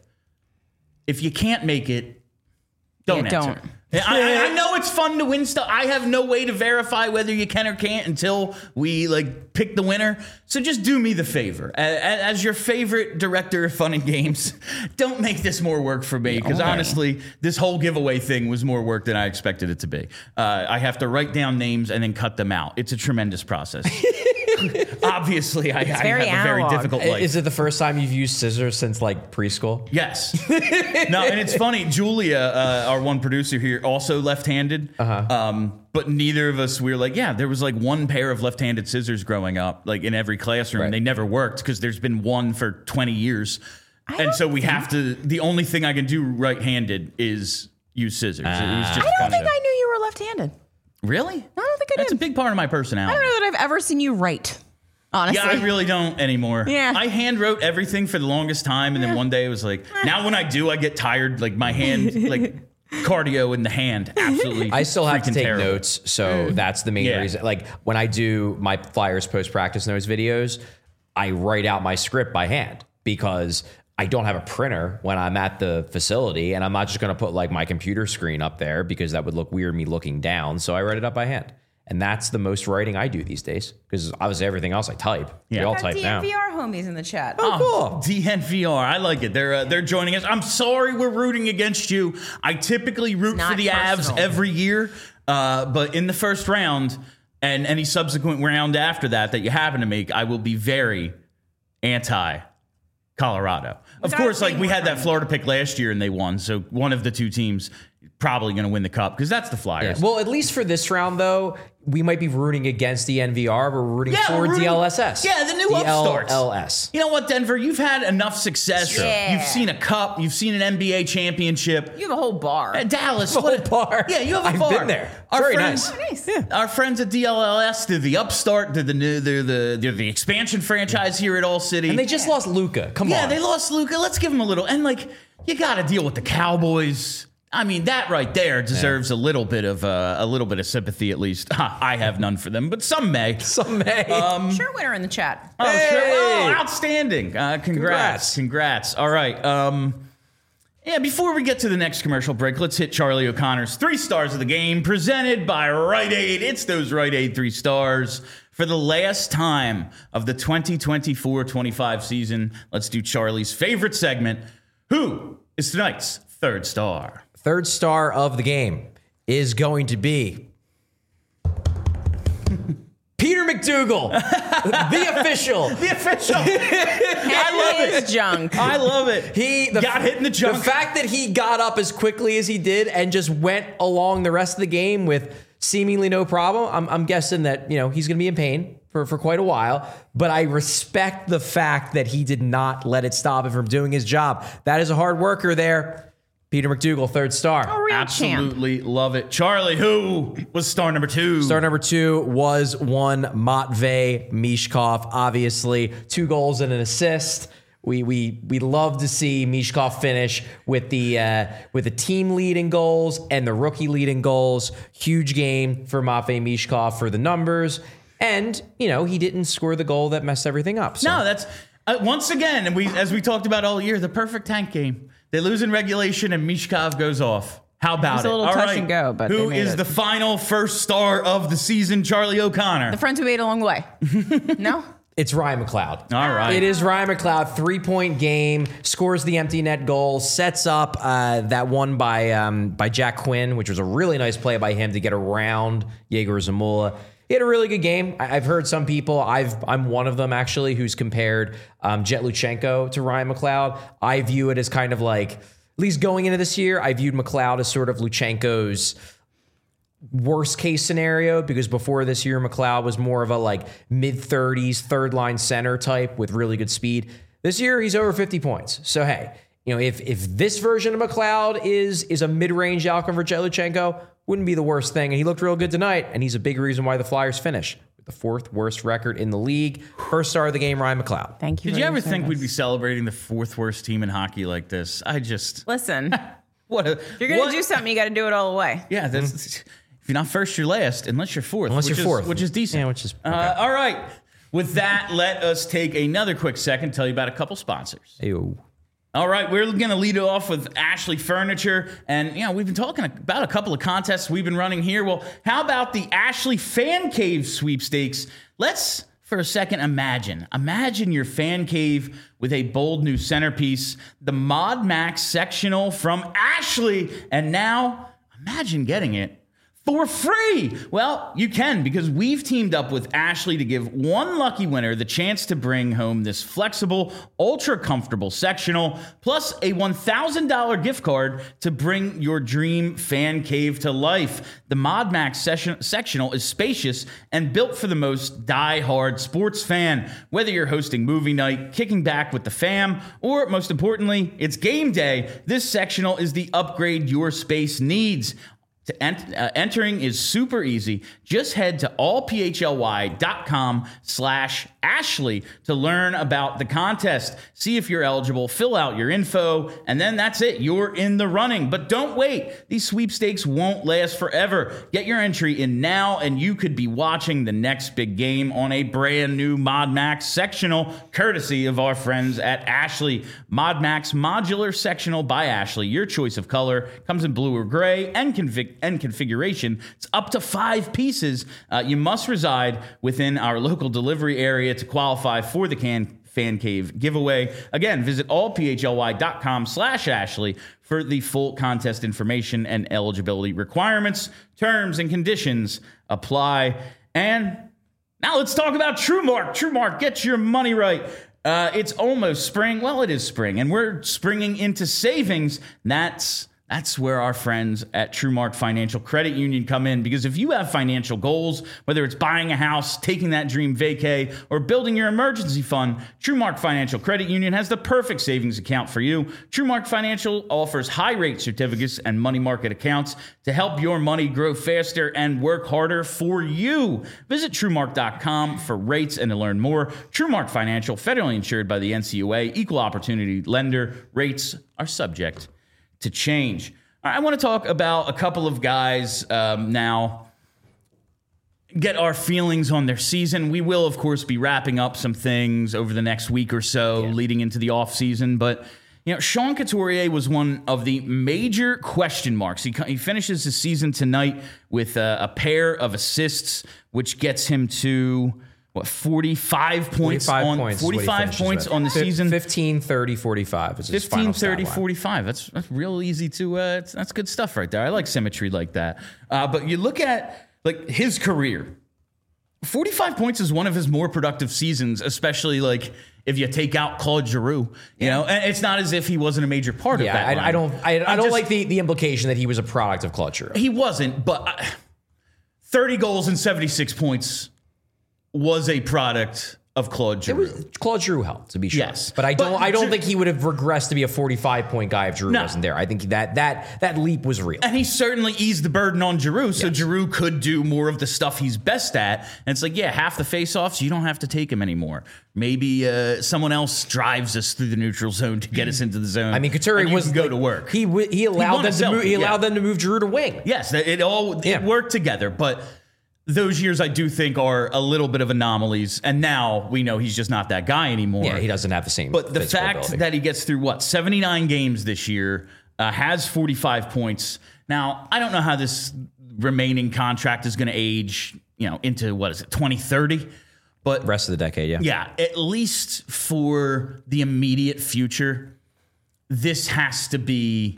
If you can't make it, don't yeah, answer. Don't. I, I know it's fun to win stuff. I have no way to verify whether you can or can't until we like pick the winner. So just do me the favor. As, as your favorite director of fun and games, don't make this more work for me. Because okay. honestly, this whole giveaway thing was more work than I expected it to be. Uh, I have to write down names and then cut them out. It's a tremendous process. Obviously, I, I have very a very difficult life. Is it the first time you've used scissors since like preschool? Yes. No, and it's funny. Julia, uh, our one producer here, also left-handed. Uh-huh. Um, but neither of us, we were like, yeah, there was like one pair of left-handed scissors growing up, like in every classroom. Right. They never worked because there's been one for twenty years. I and so we have to, the only thing I can do right-handed is use scissors. Uh, it was just I don't kinda, think I knew you were left-handed. Really? I don't think I did. That's a big part of my personality. I don't know that I've ever seen you write. Honestly. Yeah, I really don't anymore. Yeah. I hand wrote everything for the longest time, and then one day it was like, now when I do, I get tired. Like my hand, like cardio in the hand, absolutely. I still have to take terrible. notes, so mm. that's the main yeah. reason. Like when I do my Flyers post practice notes videos, I write out my script by hand because I don't have a printer when I'm at the facility, and I'm not just going to put like my computer screen up there because that would look weird me looking down. So I write it up by hand. And that's the most writing I do these days because obviously everything else I type. Yeah. We all type now. D N V R homies in the chat. Oh, cool. D N V R. I like it. They're uh, they're joining us. I'm sorry we're rooting against you. I typically root for the personal. Avs every year. Uh, but in the first round and any subsequent round after that that you happen to make, I will be very anti-Colorado. Of course, like we had that Florida pick last year and they won. So one of the two teams probably going to win the cup because that's the Flyers. Yeah. Well, at least for this round, though, we might be rooting against the N V R. We're rooting yeah, for we're rooting, D L S S. Yeah, the new D L upstarts. D L S. You know what, Denver? You've had enough success. Yeah. You've seen a cup. You've seen an N B A championship. You have a whole bar. Uh, Dallas. A whole what, bar. Yeah, you have a I've bar. I've been there. Our Very friends, nice. Oh, nice. Yeah. Our friends at D L L S, they're the upstart. They're the new. They're the they're the expansion franchise here at All City. And they just lost Luka. Come yeah, on. Yeah, they lost Luka. Let's give them a little. And like, you got to deal with the Cowboys. I mean, that right there deserves yeah. a little bit of uh, a little bit of sympathy, at least. I have none for them, but some may. Some may. Um, sure, winner in the chat. Oh, hey! sure. Oh, outstanding! Uh, congrats. congrats, congrats. All right. Um, Yeah, before we get to the next commercial break, let's hit Charlie O'Connor's three stars of the game, presented by Rite Aid. It's those Rite Aid three stars. For the last time of the twenty twenty-four twenty-five season, let's do Charlie's favorite segment. Who is tonight's third star? Third star of the game is going to be Peter McDougal, the official. The official. I love it. Junk. I love it. He the, got hit in the junk. The fact that he got up as quickly as he did and just went along the rest of the game with seemingly no problem. I'm, I'm guessing that, you know, he's going to be in pain for, for quite a while. But I respect the fact that he did not let it stop him from doing his job. That is a hard worker there. Peter McDougal, third star. A real Absolutely champ. Love it. Charlie, who was star number two? Star number two was one Matvei Mishkov. Obviously, two goals and an assist. We we we love to see Mishkov finish with the uh, with the team leading goals and the rookie leading goals. Huge game for Matvei Mishkov for the numbers, and you know he didn't score the goal that messed everything up. So. No, that's uh, once again, and we as we talked about all year, the perfect tank game. They lose in regulation, and Mishkov goes off. How about it? It was a little all touch right. and go, but who they made is it. the final first star of the season? Charlie O'Connor. The friends who made it along the way. No. It's Ryan McLeod. All right. It is Ryan McLeod, three-point game, scores the empty net goal, sets up uh, that one by um, by Jack Quinn, which was a really nice play by him to get around Yegor Zamula. He had a really good game. I- I've heard some people, I've, I'm one of them actually, who's compared um, Jet Luchenko to Ryan McLeod. I view it as kind of like, at least going into this year, I viewed McLeod as sort of Luchenko's worst case scenario, because before this year, McLeod was more of a like mid thirties, third line center type with really good speed. This year, he's over fifty points. So, hey, you know, if if this version of McLeod is is a mid-range outcome for Jet Luchenko, wouldn't be the worst thing. And he looked real good tonight, and he's a big reason why the Flyers finish with the fourth worst record in the league. First star of the game, Ryan McLeod. Thank you. Did for you your ever think service. we'd be celebrating the fourth worst team in hockey like this? I just Listen, what a, if you're gonna what- do something, you got to do it all the way. Yeah, that's if you're not first, you're last, unless you're fourth. Unless which you're is, fourth. which is decent. Yeah, which is- uh, all right. With that, let us take another quick second to tell you about a couple sponsors. Ew. All right, we're going to lead it off with Ashley Furniture. And, you know, we've been talking about a couple of contests we've been running here. Well, how about the Ashley Fan Cave sweepstakes? Let's, for a second, imagine. Imagine your fan cave with a bold new centerpiece, the Mod Max sectional from Ashley. And now, imagine getting it for free. Well, you can, because we've teamed up with Ashley to give one lucky winner the chance to bring home this flexible, ultra comfortable sectional, plus a one thousand dollars gift card to bring your dream fan cave to life. The Mod Max session, sectional is spacious and built for the most die-hard sports fan. Whether you're hosting movie night, kicking back with the fam, or most importantly, it's game day, this sectional is the upgrade your space needs. To ent- uh, entering is super easy. Just head to allphly.com slash Ashley to learn about the contest. See if you're eligible, fill out your info, and then that's it. You're in the running. But don't wait. These sweepstakes won't last forever. Get your entry in now, and you could be watching the next big game on a brand new Mod Max sectional, courtesy of our friends at Ashley. Mod Max Modular Sectional by Ashley. Your choice of color comes in blue or gray and config- and configuration. It's up to five pieces. Uh, you must reside within our local delivery area to qualify for the can Fan Cave giveaway. Again, visit allphly.com slash Ashley for the full contest information and eligibility requirements. Terms and conditions apply. And now let's talk about TrueMark. TrueMark, get your money right. Uh, it's almost spring. Well, it is spring, and we're springing into savings. That's That's where our friends at TrueMark Financial Credit Union come in, because if you have financial goals, whether it's buying a house, taking that dream vacay, or building your emergency fund, TrueMark Financial Credit Union has the perfect savings account for you. TrueMark Financial offers high-rate certificates and money market accounts to help your money grow faster and work harder for you. Visit TrueMark dot com for rates and to learn more. TrueMark Financial, federally insured by the N C U A, equal opportunity lender. Rates are subject to change. I want to talk about a couple of guys um, now, get our feelings on their season. We will, of course, be wrapping up some things over the next week or so, yeah. leading into the off season. But, You know, Sean Couturier was one of the major question marks. He, he finishes the season tonight with a, a pair of assists, which gets him to, what, forty-five points forty-five on points forty-five points on the F- season. fifteen, thirty, forty-five is his fifteen, final thirty, stat line. forty-five. That's, that's real easy to, uh, it's, that's good stuff right there. I like symmetry like that. Uh, but you look at, like, his career. forty-five points is one of his more productive seasons, especially, like, if you take out Claude Giroux, you yeah. know, and it's not as if he wasn't a major part yeah, of that. I, I don't, I, I don't just, like the, the implication that he was a product of Claude Giroux. He wasn't, but uh, thirty goals and seventy-six points was a product of Claude Giroux. It was, Claude Giroux helped, to be sure. Yes, but I don't, but I don't Gi- think he would have regressed to be a forty-five point guy if Giroux No. wasn't there. I think that that that leap was real. And he certainly eased the burden on Giroux, so yes. Giroux could do more of the stuff he's best at. And it's like, yeah, half the faceoffs, you don't have to take him anymore. Maybe uh, someone else drives us through the neutral zone to get us into the zone. I mean, Couturier was go like, to work. He he allowed he them to move, he allowed yeah. them to move Giroux to wing. Yes, it all it yeah. worked together, but those years I do think are a little bit of anomalies, and now we know he's just not that guy anymore. Yeah, he doesn't have the same. But the fact ability. that he gets through what seventy-nine games this year, uh, has forty-five points. Now I don't know how this remaining contract is going to age, you know, into what is it, twenty thirty? But rest of the decade, yeah, yeah, at least for the immediate future, this has to be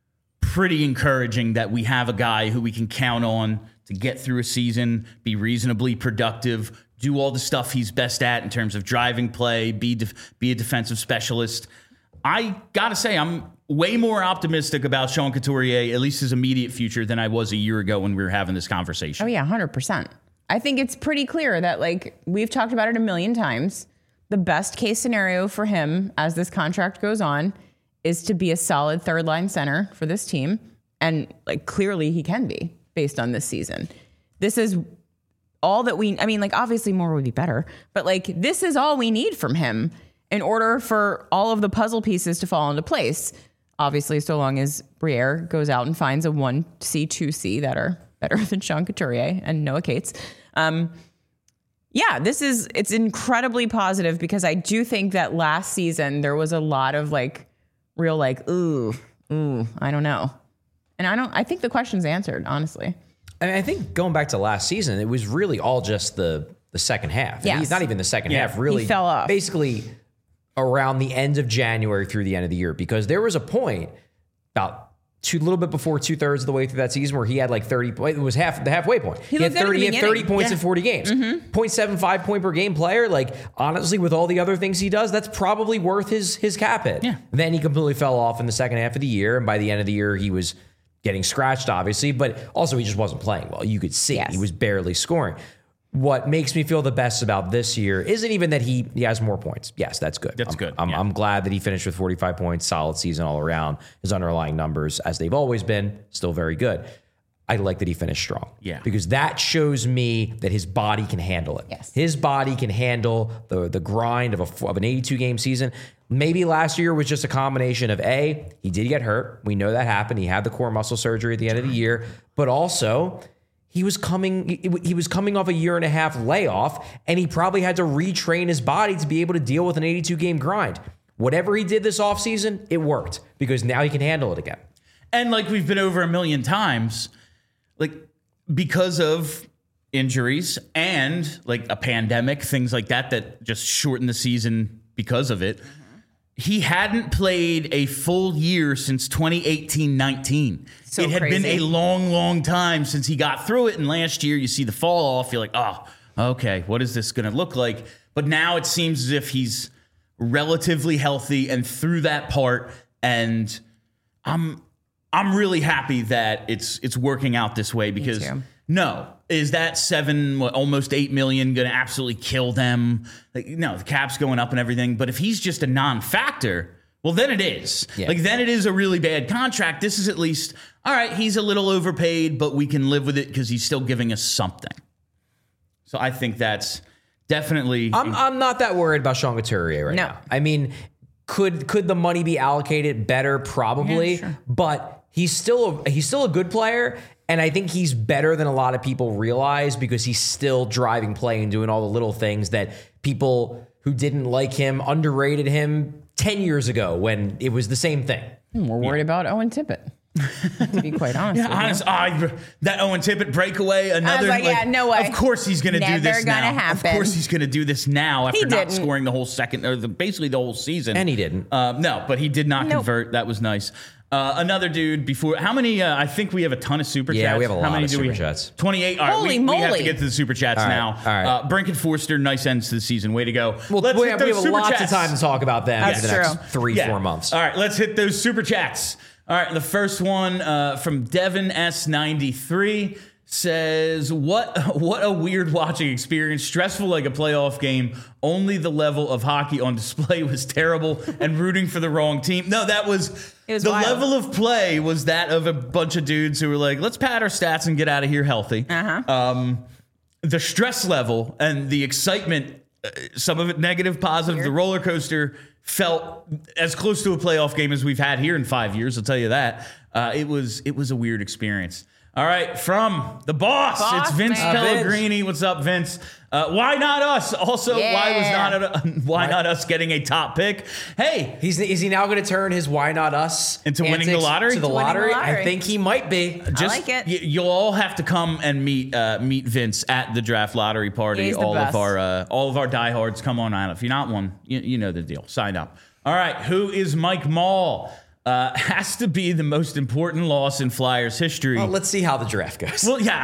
pretty encouraging that we have a guy who we can count on to get through a season, be reasonably productive, do all the stuff he's best at in terms of driving play, be def- be a defensive specialist. I gotta say, I'm way more optimistic about Sean Couturier, at least his immediate future, than I was a year ago when we were having this conversation. Oh yeah, one hundred percent. I think it's pretty clear that, like, we've talked about it a million times. The best case scenario for him as this contract goes on is to be a solid third line center for this team. And, like, clearly he can be based on this season. This is all that we, I mean, like, obviously more would be better, but, like, this is all we need from him in order for all of the puzzle pieces to fall into place. Obviously, so long as Briere goes out and finds a one C, two C that are better than Sean Couturier and Noah Cates. Um, yeah, this is, it's incredibly positive because I do think that last season there was a lot of, like, real, like, ooh, ooh, I don't know. And I don't, I think the question's answered, honestly. I mean, I think going back to last season, it was really all just the the second half. Yes. He's not even the second Yeah. half, really. He fell off. Basically around the end of January through the end of the year, because there was a point about two, a little bit before two thirds of the way through that season where he had like thirty, it was half the halfway point. He He, had looked good at the thirty, he had thirty beginning. points Yeah. in forty games. Mm-hmm. zero point seven five point per game player. Like, honestly, with all the other things he does, that's probably worth his, his cap hit. Yeah. Then he completely fell off in the second half of the year. And by the end of the year, he was getting scratched, obviously, but also he just wasn't playing well. You could see Yes. he was barely scoring. What makes me feel the best about this year isn't even that he he has more points. Yes, that's good. That's I'm, good, I'm, yeah. I'm glad that he finished with forty-five points, solid season all around. His underlying numbers, as they've always been, still very good. I like that he finished strong. Yeah. Because that shows me that his body can handle it. Yes. His body can handle the, the grind of, a, of an eighty-two game season. Maybe last year was just a combination of A, he did get hurt. We know that happened. He had the core muscle surgery at the end of the year. But also, he was coming he, he was coming off a year and a half layoff, and he probably had to retrain his body to be able to deal with an eighty-two game grind. Whatever he did this offseason, it worked because now he can handle it again. And like we've been over a million times, like because of injuries and like a pandemic, things like that, that just shortened the season because of it. He hadn't played a full year since twenty eighteen nineteen. So it had crazy. been a long, long time since he got through it. And last year, you see the fall off. You're like, oh, okay, what is this going to look like? But now it seems as if he's relatively healthy and through that part. And I'm I'm really happy that it's it's working out this way because too. no, is that seven, what, almost eight million going to absolutely kill them? Like, no, the cap's going up and everything. But if he's just a non-factor, well, then it is. Yeah. Like, then it is a really bad contract. This is at least, all right, he's a little overpaid, but we can live with it because he's still giving us something. So I think that's definitely. I'm I'm not that worried about Sean Couturier right No. now. I mean, could could the money be allocated better? Probably, Yeah, sure. but he's still a, he's still a good player, and I think he's better than a lot of people realize because he's still driving play and doing all the little things that people who didn't like him, underrated him, ten years ago when it was the same thing. We're worried yeah. about Owen Tippett. To be quite honest, yeah, honest, I, that Owen Tippett breakaway, another. Like, like, yeah, no way. Of course he's going to do this gonna now. Happen. Of course he's going to do this now after he not didn't. scoring the whole second or the, basically the whole season. And he didn't. Um, no, but he did not nope. convert. That was nice. Uh, another dude before. How many? Uh, I think we have a ton of super yeah, chats. Yeah, we have a how lot many of do super we chats. twenty-eight. All right, Holy we, moly. we have to get to the super chats all right, now. All right. Uh, Brink and Forster, nice ends to the season. Way to go. Well, let's we hit have, those we have super lots chats. of time to talk about them That's for the next true. three, yeah. four months. All right, let's hit those super chats. All right, the first one uh, from Devin S ninety-three says, "What what a weird watching experience. Stressful like a playoff game. Only the level of hockey on display was terrible, and rooting for the wrong team." No, that was, it was the wild. level of play was that of a bunch of dudes who were like, "Let's pad our stats and get out of here healthy." Uh-huh. Um, the stress level and the excitement, uh, some of it negative, positive. Weird. The roller coaster felt as close to a playoff game as we've had here in five years. I'll tell you that. Uh, it was it was a weird experience. All right, from the boss, boss it's Vince man. Pellegrini. What's up, Vince? Uh, why not us? Also, yeah. why was not a, why not us getting a top pick? Hey, he's is he now going to turn his why not us into winning the lottery? To the lottery? the lottery? I think he might be. Just, I like it. Y- you'll all have to come and meet uh, meet Vince at the draft lottery party. He's the all best. of our uh, all of our diehards, come on out. If you're not one, you, you know the deal. Sign up. All right, who is Mike Mall? Uh, has to be the most important loss in Flyers history. Well, let's see how the draft goes. Well, yeah,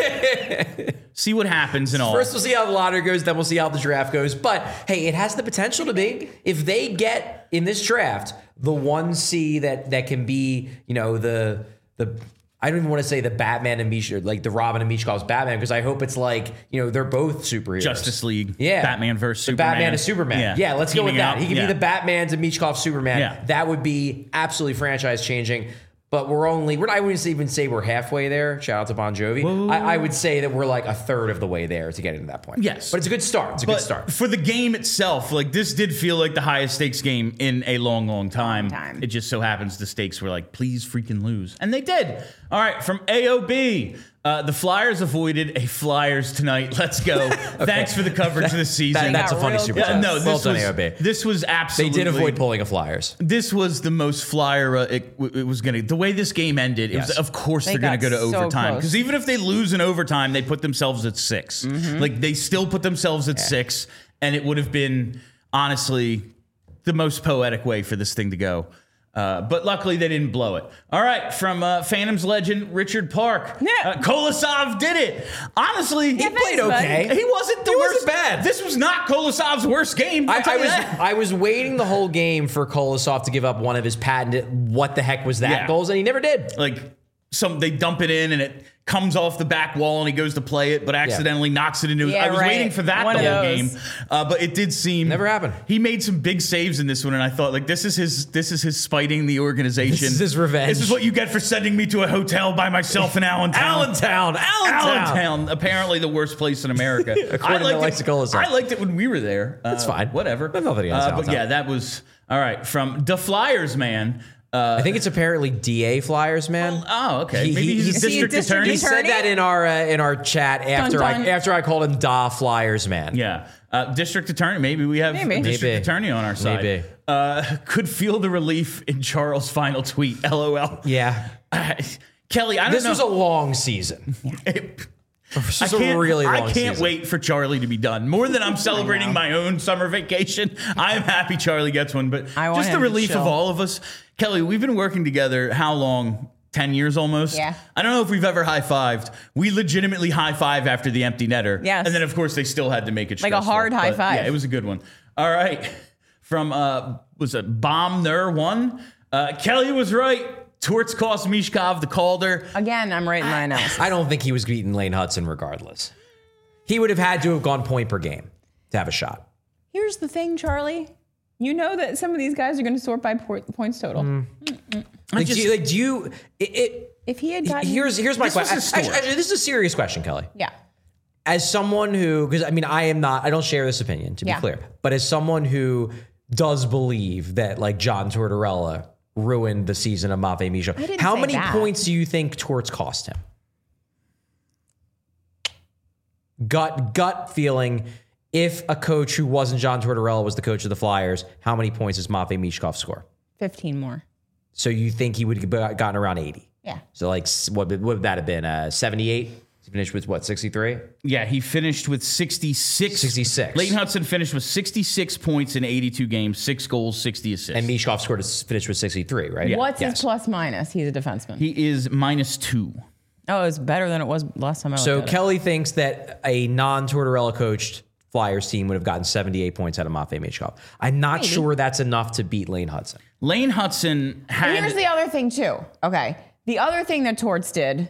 I mean, see what happens and all. First, we'll see how the lottery goes, then we'll see how the draft goes. But hey, it has the potential to be, if they get in this draft the one C that that can be, you know, the the. I don't even want to say the Batman and Misha, like the Robin and Misha calls Batman, because I hope it's like, you know, they're both superheroes. Justice League. Yeah. Batman versus the Superman. Batman is Superman. Yeah, Yeah. let's go with Teaming that. up. He can Yeah. be the Batman to Michkov Superman. Yeah. That would be absolutely franchise changing. But we're only, we're, I wouldn't even say we're halfway there. Shout out to Bon Jovi. I, I would say that we're like a third of the way there to getting to that point. Yes. But it's a good start. It's a But good start. for the game itself, like this did feel like the highest stakes game in a long, long time. Long time. It just so happens the stakes were like, please freaking lose. And they did. All right, from A O B. Uh, the Flyers avoided a Flyers tonight. Let's go. okay. Thanks for the coverage this season. That, that's a got funny real super close. chat. Yeah, no, this well was done, A O B. this was They absolutely. did avoid pulling a Flyers. This was the most Flyer. Uh, it, it was gonna. The way this game ended, it Yes. was, of course They they're gonna got go to so overtime, close. because even if they lose in overtime, they put themselves at six. Like they still put themselves at six, and it would have been honestly the most poetic way for this thing to go. Uh, but luckily they didn't blow it. All right, from uh, Phantoms legend Richard Park. Yeah. Uh, Kolosov did it. Honestly, Yeah, he thanks, played bud. okay. He wasn't the He worst. wasn't bad. This was not Kolosov's worst game. I'll I, tell I you was that. I was waiting the whole game for Kolosov to give up one of his patented "what the heck was that" Yeah. goals, and he never did. Like some, they dump it in and it comes off the back wall and he goes to play it, but accidentally knocks it into. Yeah, I was right. waiting for that One the of whole those. game, uh, but it did seem Never happened. He made some big saves in this one, and I thought like this is his this is his spiting the organization. This is his revenge. This is what you get for sending me to a hotel by myself in Allentown. Allentown, Allentown. Allentown, apparently the worst place in America. According to I liked Alexa it, Kolosov. I liked it when we were there. Uh, That's fine. Whatever. I have nothing against Uh, but Allentown. yeah, that was all right. From the Flyers, man. Uh, I think it's apparently D A Flyers, man. Oh, okay. He- Maybe he- he's he's- a Is he a district district attorney. He said attorney? that in our uh, in our chat after dun. I after I called him Da Flyers, man. Yeah. Uh, district attorney. Maybe we have Maybe. a district Maybe. attorney on our side. Maybe. Uh, could feel the relief in Charles' final tweet. L O L. Yeah. Uh, Kelly, I don't This know. was a long season. It- This I was a can't, really long I can't season. wait for Charlie to be done. More than I'm celebrating my own summer vacation, I'm happy Charlie gets one. But I want just the him to relief of chill. all of us. Kelly, we've been working together how long? ten years almost? Yeah. I don't know if we've ever high-fived. We legitimately high-five after the empty netter. Yes. And then, of course, they still had to make it Like a stressful. hard high But, five. Yeah, it was a good one. All right. From, uh, was it Bomb Ner one? Uh, Kelly was right. Torts cost Mishkov the Calder. Again, I'm right in my analysis. I don't think he was beating Lane Hudson regardless. He would have had to have gone point per game to have a shot. Here's the thing, Charlie. You know that some of these guys are going to sort by po- points total. Mm. Like, just- do you, like, do you it, it, If he had gotten here's here's my This was question. his story. Actually, actually, this is a serious question, Kelly. yeah, As someone who, because I mean, I am not, I don't share this opinion to be Yeah. clear, but as someone who does believe that like John Tortorella ruined the season of Matvei Misha, didn't how say many that. points do you think Torts cost him? Gut gut feeling. if a coach who wasn't John Tortorella was the coach of the Flyers, how many points does Matvei Michkov score? fifteen more. So you think he would have gotten around eighty? Yeah. So like, what, what would that have been? Uh, seventy-eight? He finished with what, sixty-three? Yeah, he finished with sixty-six. sixty-six. Leighton Hudson finished with sixty-six points in eighty-two games, six goals, sixty assists. And Michkov scored to finish with sixty-three, right? Yeah. What's Yes. his plus minus? He's a defenseman. He is minus two. oh, it's better than it was last time I So looked at Kelly thinks that a non-Tortorella coached Flyers team would have gotten seventy-eight points out of Matvei Michkov. I'm not Maybe. sure that's enough to beat Lane Hudson. Lane Hudson it. had. Here's the other thing, too. Okay. The other thing that Torts did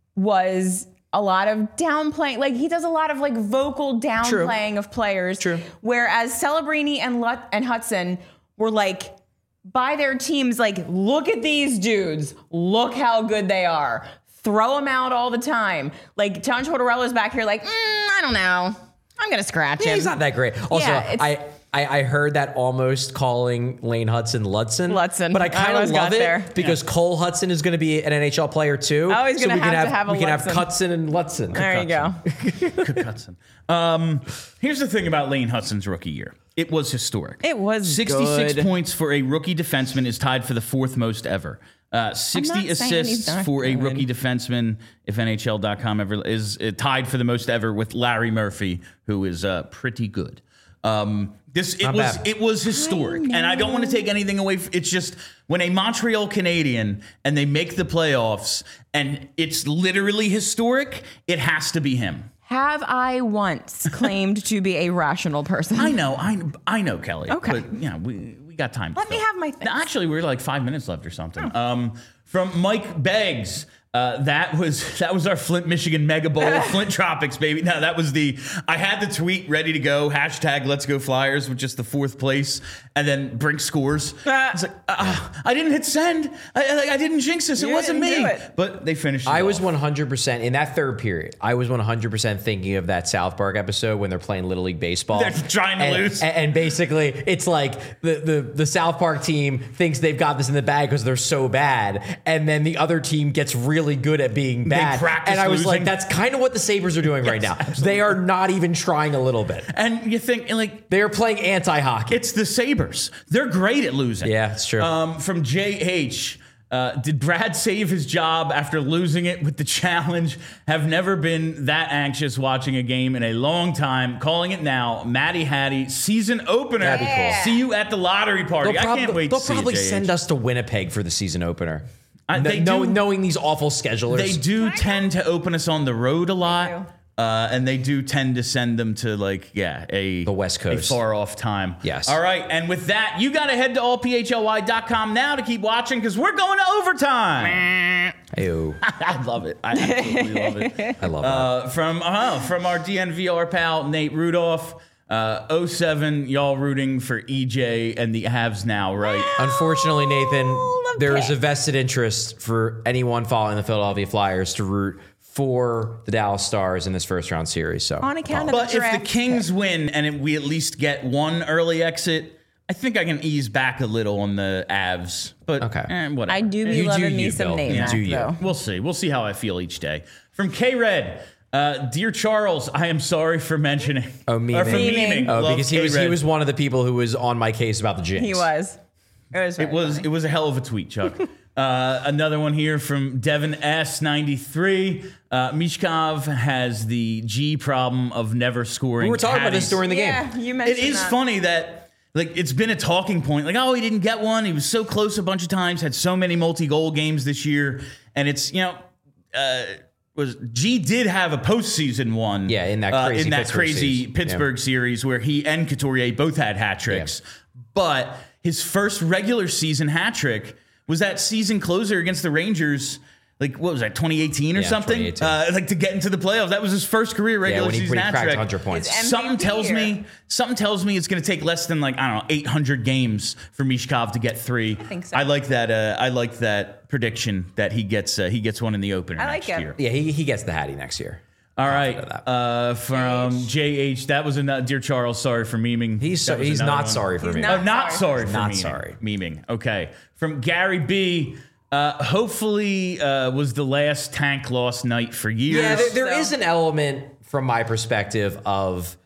was a lot of downplaying. Like, he does a lot of, like, vocal downplaying of players. True. Whereas Celebrini and, Lut- and Hudson were, like, by their teams, like, look at these dudes. Look how good they are. Throw them out all the time. Like, John Tortorella's back here like, mm, I don't know. I'm going to scratch Yeah, him. he's not that great. Also, Yeah, it's- I, I I heard that almost calling Lane Hudson Ludson. Ludson. But I I kind of almost love got it there. because Cole Hudson is going to be an N H L player too. Oh, he's gonna we can have to have a We can have Ludson. Hudson and Ludson. There you go. Cook Hudson. Um, here's the thing about Lane Hudson's rookie year. It was historic. It was sixty-six good. points for a rookie defenseman is tied for the fourth most ever. Uh, sixty not saying he's assists not for a good. rookie defenseman, if N H L dot com ever is uh, tied for the most ever with Larry Murphy, who is uh, pretty good. Um, this it Not was bad. it was historic, I and I don't want to take anything away. From, it's just when a Montreal Canadian and they make the playoffs, and it's literally historic. It has to be him. Have I once claimed to be a rational person? I know, I I know, Kelly. Okay. But yeah, we we got time. to Let me fill. have my things. No, actually, we're like five minutes left or something. Um, from Mike Beggs. Uh, that was that was our Flint, Michigan Mega Bowl, Flint Tropics, baby. No, that was the. I had the tweet ready to go. Hashtag Let's Go Flyers with just the fourth place, and then Brink scores. I was like, uh, I didn't hit send. I, I, I didn't jinx this. It You wasn't didn't me. do it. But they finished. It I was off. one hundred percent in that third period. I was one hundred percent thinking of that South Park episode when they're playing Little League Baseball. They're trying to and, lose. And, and basically, it's like the, the, the South Park team thinks they've got this in the bag because they're so bad. And then the other team gets really good at being bad. practice And I was like, losing. that's kind of what the Sabres are doing right now. They are not even trying a little bit. And you think like They are playing anti-hockey. it's the Sabres. They're great at losing. Yeah, it's true. Um, from J H. Uh, did Brad save his job after losing it with the challenge? Have never been that anxious watching a game in a long time. Calling it now. Matty Hattie, season opener. That'd be cool. Yeah. See you at the lottery party. They'll I prob- can't wait They'll to see probably it, J H. send us to Winnipeg for the season opener. Uh, Kn- they know- do- knowing these awful schedulers. They do tend to open us on the road a lot. Uh, and they do tend to send them to like, yeah, a The West Coast. a far off time. Yes. All right. And with that, you got to head to all p h l y dot com now to keep watching because we're going to overtime. Ew. I love it. I absolutely love it. I love that. Uh, from uh, from our D N V R pal Nate Rudolph, uh, oh seven, y'all rooting for E J and the Avs now, right? Unfortunately, Nathan, the there is a Pits. vested interest for anyone following the Philadelphia Flyers to root for the Dallas Stars in this first round series. So, On account of But the if draft the Kings win and it, we at least get one early exit, I think I can ease back a little on the Avs. But Okay. eh, whatever. I do be You do loving me you, some Bill. name You Mac, do you. though. We'll see. We'll see how I feel each day. From K Red, uh, dear Charles, I am sorry for mentioning. Oh, memeing. Or for Memeing. memeing. oh, Love because he was he K-Red. was one of the people who was on my case about the Jinx. He was. It was. It was it was a hell of a tweet, Chuck. uh, another one here from Devin S ninety-three. Uh, Mishkov has the G problem of never scoring. We were talking about this Hatties. during the Yeah, game. you It mentioned is that. funny that like it's been a talking point. Like, oh, he didn't get one. He was so close a bunch of times. Had so many multi-goal games this year, and it's you know. Uh, was G did have a postseason one? Yeah, in that uh, crazy in that Pittsburgh crazy series. Pittsburgh series where he and Couturier both had hat tricks. But his first regular season hat trick was that season closer against the Rangers. Like what was that, twenty eighteen or Yeah, something? twenty eighteen. Uh, like to get into the playoffs. That was his first career Yeah, regular when he, season when he hat cracked trick. one hundred points. His M V P Something tells year. me, something tells me it's going to take less than like I don't know, eight hundred games for Mishkov to get three. I think so. I like that. Uh, I like that prediction that he gets. Uh, he gets one in the opener I like next it. year. Yeah, he, he gets the Hattie next year. All right, of that. uh, from J H. That was a dear Charles. Sorry for memeing. He's so, That was he's another not one. sorry for He's me. not- Oh, not sorry. sorry for Not memeing. sorry. Memeing. Okay. From Gary B. Uh, hopefully uh, was the last tank loss night for years. Yeah, there, there So- is an element from my perspective of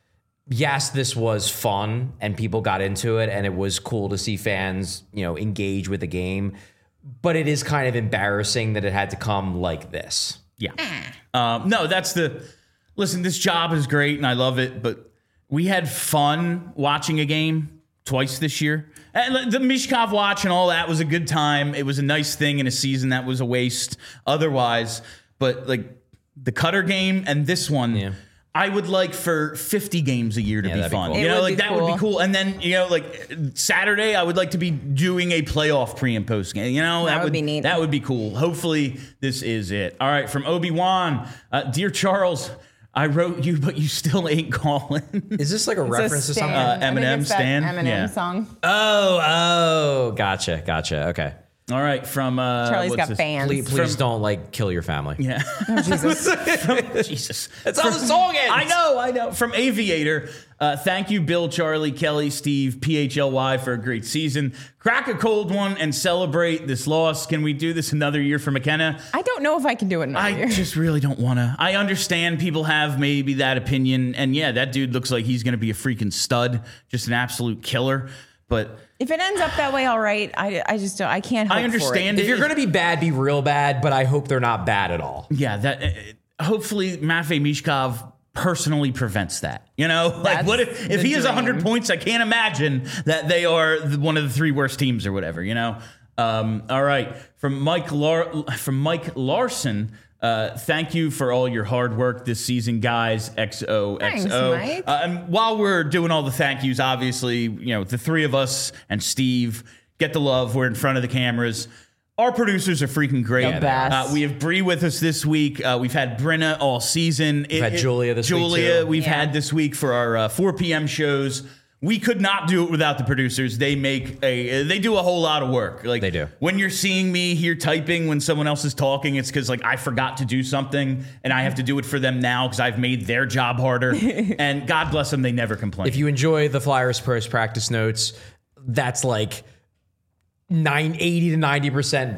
yes, this was fun and people got into it and it was cool to see fans, you know, engage with the game. But it is kind of embarrassing that it had to come like this. Yeah. Um, no, that's the... Listen, this job is great and I love it, but we had fun watching a game twice this year. And the Michkov watch and all that was a good time. It was a nice thing in a season that was a waste otherwise. But, like, the Cutter game and this one... Yeah. I would like for fifty games a year to yeah, be fun. Be cool. You know, like that cool. would be cool. And then, you know, like Saturday, I would like to be doing a playoff pre and post game. You know, that, that would, would be neat. That would be cool. Hopefully, this is it. All right, from Obi-Wan, uh, Dear Charles, I wrote you, but you still ain't calling. Is this like a it's reference a to something? Uh, Eminem Stan? Eminem yeah. song. Oh, oh, gotcha, gotcha. Okay. All right, from uh, Charlie's got this? fans. Please, please from, don't like kill your family. Yeah, oh, Jesus, from, Jesus. That's how the song ends. I know, I know. From Aviator, uh, thank you, Bill, Charlie, Kelly, Steve, P H L Y for a great season. Crack a cold one and celebrate this loss. Can we do this another year for McKenna? I don't know if I can do it another I year. I just really don't want to. I understand people have maybe that opinion, and yeah, that dude looks like he's going to be a freaking stud, just an absolute killer. But if it ends up that way, all right. I, I just don't. I can't. Hope I understand. For it. If you're going to be bad, be real bad. But I hope they're not bad at all. Yeah. That uh, hopefully Matvei Michkov personally prevents that. You know, like That's what if if he has one hundred points? I can't imagine that they are the, one of the three worst teams or whatever. You know. Um, all right. From Mike Lar- from Mike Larson. Uh, thank you for all your hard work this season, guys. X O X O. Thanks, Mike. Uh, and while we're doing all the thank yous, obviously, you know, the three of us and Steve get the love. We're in front of the cameras. Our producers are freaking great. The best. Uh, we have Bree with us this week. Uh, we've had Brenna all season. We've it, had Julia this Julia, week, too. Julia, we've yeah. had this week for our uh, four p.m. shows. We could not do it without the producers. They make a, they do a whole lot of work. Like they do. When you're seeing me here typing when someone else is talking, it's because like I forgot to do something and I have to do it for them now because I've made their job harder. And God bless them, they never complain. If you enjoy the Flyers post practice notes, that's like nine eighty to ninety percent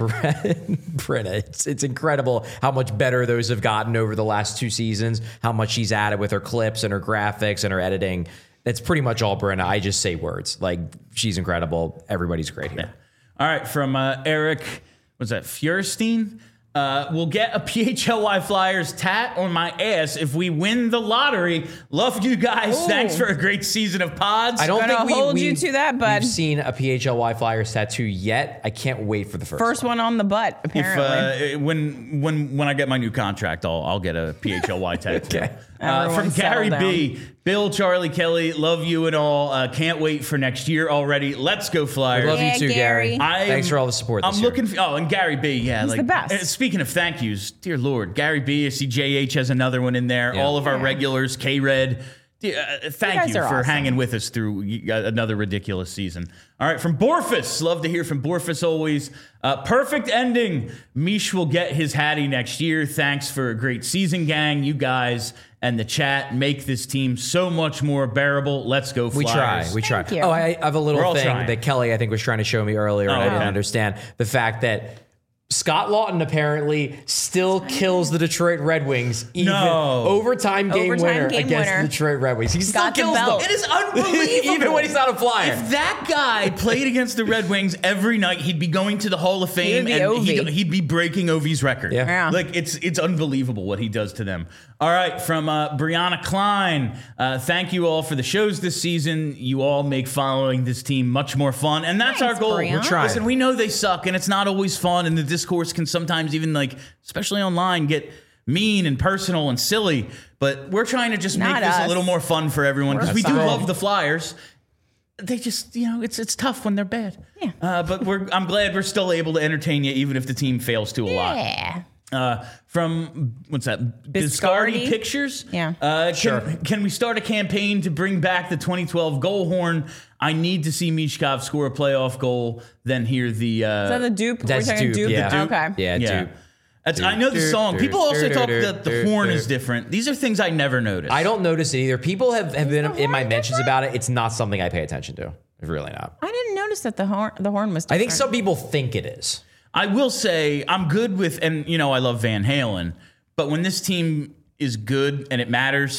Brenna. It's it's incredible how much better those have gotten over the last two seasons. How much she's added with her clips and her graphics and her editing. That's pretty much all Brenna. I just say words. Like, she's incredible. Everybody's great here. Yeah. All right, from uh, Eric, what's that, Feuerstein? Uh, we'll get a P H L Y Flyers tat on my ass if we win the lottery. Love you guys. Ooh. Thanks for a great season of pods. I don't Gonna think we, hold we, you to that, bud. We've seen a P H L Y Flyers tattoo yet. I can't wait for the first, first one. one on the butt. Apparently, if, uh, when when when I get my new contract, I'll I'll get a P H L Y tattoo. Okay. Uh, from Gary B. Bill, Charlie, Kelly, love you and all. Uh, can't wait for next year already. Let's go Flyers. We love yeah, you too, Gary. Gary. I'm, Thanks for all the support. This I'm year. looking. For, oh, and Gary B. Yeah, he's like the best. Uh, speaking of thank yous, dear Lord, Gary B. I see J H has another one in there. Yeah. All of our yeah. regulars, K Red. Uh, thank you, you for awesome. hanging with us through another ridiculous season. All right, from Borfus. Love to hear from Borfus always. Uh, perfect ending. Mish will get his Hattie next year. Thanks for a great season, gang. You guys and the chat make this team so much more bearable. Let's go Flyers. We try. We try. Thank you. Oh, I have a little thing trying. that Kelly, I think, was trying to show me earlier, oh, and I okay. didn't understand. The fact that Scott Lawton apparently still kills the Detroit Red Wings. Even no. overtime game overtime winner game against winner. the Detroit Red Wings. He still Got kills the them. It is unbelievable. Even when he's not a Flyer. If that guy played against the Red Wings every night, he'd be going to the Hall of Fame He would be and Ovi. he'd, he'd be breaking Ovi's record. Yeah. Yeah. Like it's it's unbelievable what he does to them. All right, from uh, Brianna Klein. Uh, thank you all for the shows this season. You all make following this team much more fun, and that's Thanks, our goal. Brianna. We're trying. Listen, we know they suck, and it's not always fun, and the discourse can sometimes even like, especially online, get mean and personal and silly. But we're trying to just Not make this us. a little more fun for everyone because we do fine. love the Flyers. They just, you know, it's it's tough when they're bad. Yeah. Uh, but we're I'm glad we're still able to entertain you, even if the team fails to a lot. Yeah. Uh, from what's that? Biscardi? Biscardi Pictures. Yeah. Uh, can, Sure. Can we start a campaign to bring back the twenty twelve goal horn? I need to see Michkov score a playoff goal. Then hear the. Uh, Is that the dupe? That's We're talking dupe, dupe. yeah. The dupe? Okay. Yeah, yeah. dude. That's, I know the song. People also talk that the horn is different. These are things I never noticed. I don't notice it either. People have, have been the in my horn mentions different? about it. It's not something I pay attention to. It's really not. I didn't notice that the horn the horn was I different. think some people think it is. I will say I'm good with, and you know I love Van Halen, but when this team is good and it matters,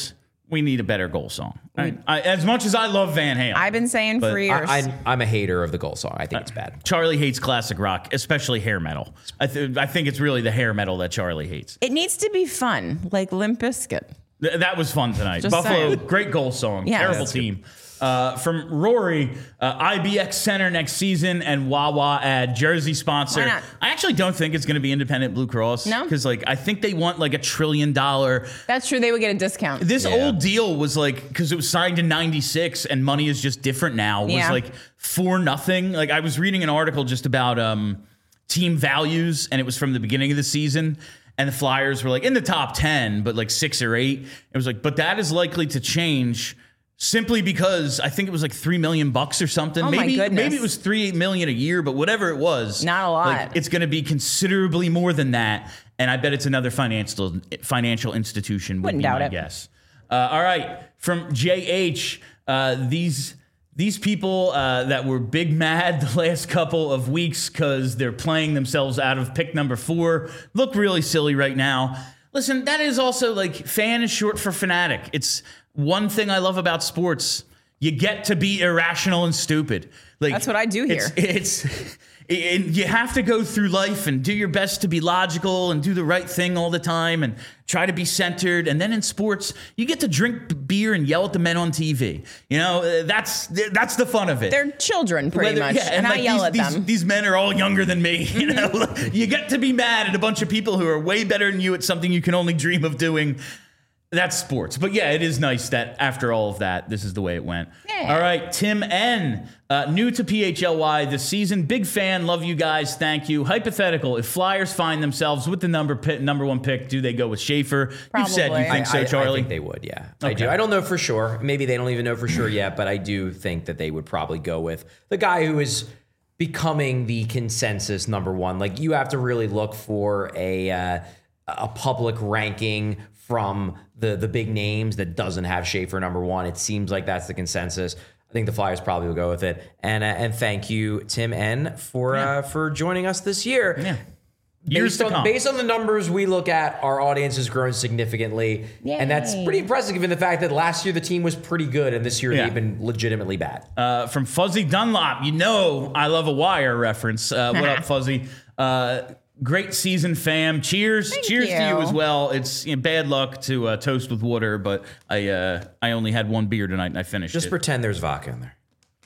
we need a better goal song. Right? I, as much as I love Van Halen. I've been saying for years. I, I'm, I'm a hater of the goal song. I think uh, it's bad. Charlie hates classic rock, especially hair metal. I, th- I think it's really the hair metal that Charlie hates. It needs to be fun, like Limp Bizkit. Th- that was fun tonight. Just Buffalo, saying. great goal song. Yeah, Terrible team. Uh, from Rory, uh, I B X Center next season and Wawa ad jersey sponsor. Why not? I actually don't think it's going to be Independent Blue Cross. No? Because like I think they want like a trillion dollar. That's true. They would get a discount. This Yeah. old deal was like, because it was signed in ninety-six and money is just different now, was Yeah. like for nothing. Like I was reading an article just about um, team values and it was from the beginning of the season. And the Flyers were like in the top ten, but like six or eight. It was like, but that is likely to change simply because I think it was like three million bucks or something. Oh my maybe goodness. maybe it was three million a year, but whatever it was, Not a lot. like, it's going to be considerably more than that. And I bet it's another financial financial institution. Would Wouldn't be doubt my it. guess. Uh, all right, from J H, uh, these. These people uh, that were big mad the last couple of weeks because they're playing themselves out of pick number four look really silly right now. Listen, that is also like fan is short for fanatic. It's one thing I love about sports. You get to be irrational and stupid. Like That's what I do here. It's, it's and you have to go through life and do your best to be logical and do the right thing all the time and try to be centered. And then in sports, you get to drink beer and yell at the men on T V. You know, that's that's the fun of it. They're children, pretty Whether- much, yeah, and, like I yell these, at these, them. These men are all younger than me. You know, you get to be mad at a bunch of people who are way better than you at something you can only dream of doing. That's sports. But yeah, it is nice that after all of that, this is the way it went. Yeah. All right, Tim N. Uh, new to P H L Y this season. Big fan. Love you guys. Thank you. Hypothetical. If Flyers find themselves with the number pick, number one pick, do they go with Schaefer? You said you Probably. think so, I, Charlie? I think they would, yeah. I Okay. do. I don't know for sure. Maybe they don't even know for sure yet, but I do think that they would probably go with the guy who is becoming the consensus number one. Like you have to really look for a uh, a public ranking from the the big names that doesn't have Schaefer number one. It seems like that's the consensus. I think the Flyers probably will go with it. And uh, and thank you, Tim N, for Yeah. uh, for joining us this year. Yeah. Years Based to on, come. based on the numbers we look at, our audience has grown significantly. Yay. And that's pretty impressive given the fact that last year the team was pretty good and this year Yeah. they've been legitimately bad. Uh, from Fuzzy Dunlop, you know I love a Wire reference. Uh, what up, Fuzzy? Uh, great season, fam. Cheers. Thank Cheers to you you. as well. It's you know, bad luck to uh, toast with water, but I uh, I only had one beer tonight and I finished Just it. pretend there's vodka in there.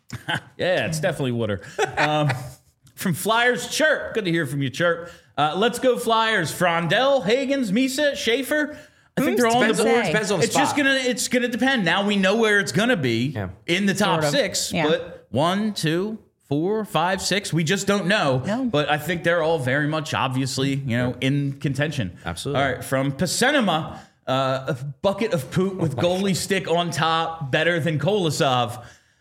Yeah, it's definitely water. Um, from Flyers, Chirp. Good to hear from you, Chirp. Uh, let's go Flyers. Frondell, Hagens, Misa, Schaefer. I think they're all on the Depends on- board. depends on the It's just spot. gonna it's gonna depend. Now we know where it's gonna be Yeah. in the top Sort of. six, Yeah. but one, two, four, five, six. We just don't know. No. But I think they're all very much obviously, you know, in contention. Absolutely. All right, from Pacenema, uh, a bucket of poop with goalie stick on top, better than Kolosov.